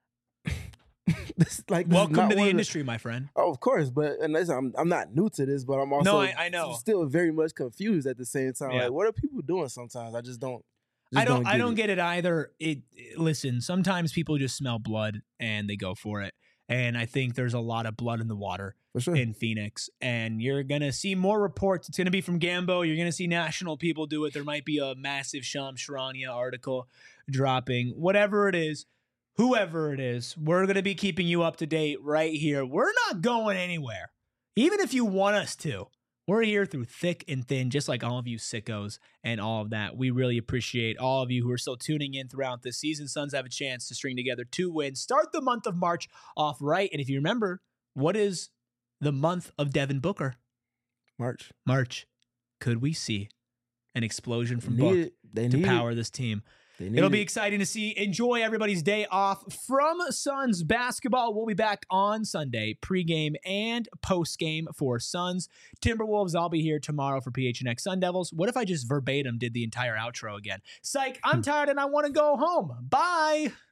welcome to the industry, my friend. Oh, of course, but and listen, I'm not new to this, but I'm also I know. still very much confused at the same time. Yeah. Like, what are people doing sometimes? I just don't. I don't get it either. Listen, sometimes people just smell blood and they go for it. And I think there's a lot of blood in the water for sure in Phoenix. And you're going to see more reports. It's going to be from Gambo. You're going to see national people do it. There might be a massive Shams Charania article dropping. Whatever it is, whoever it is, we're going to be keeping you up to date right here. We're not going anywhere. Even if you want us to. We're here through thick and thin, just like all of you sickos and all of that. We really appreciate all of you who are still tuning in throughout this season. Suns have a chance to string together 2 wins, start the month of March off right. And if you remember, what is the month of Devin Booker? March. Could we see an explosion from Book to power this team? It'll be exciting to see. Enjoy everybody's day off from Suns basketball. We'll be back on Sunday, pregame and postgame for Suns Timberwolves. I'll be here tomorrow for PHNX Sun Devils. What if I just verbatim did the entire outro again? Psych, I'm tired and I want to go home. Bye.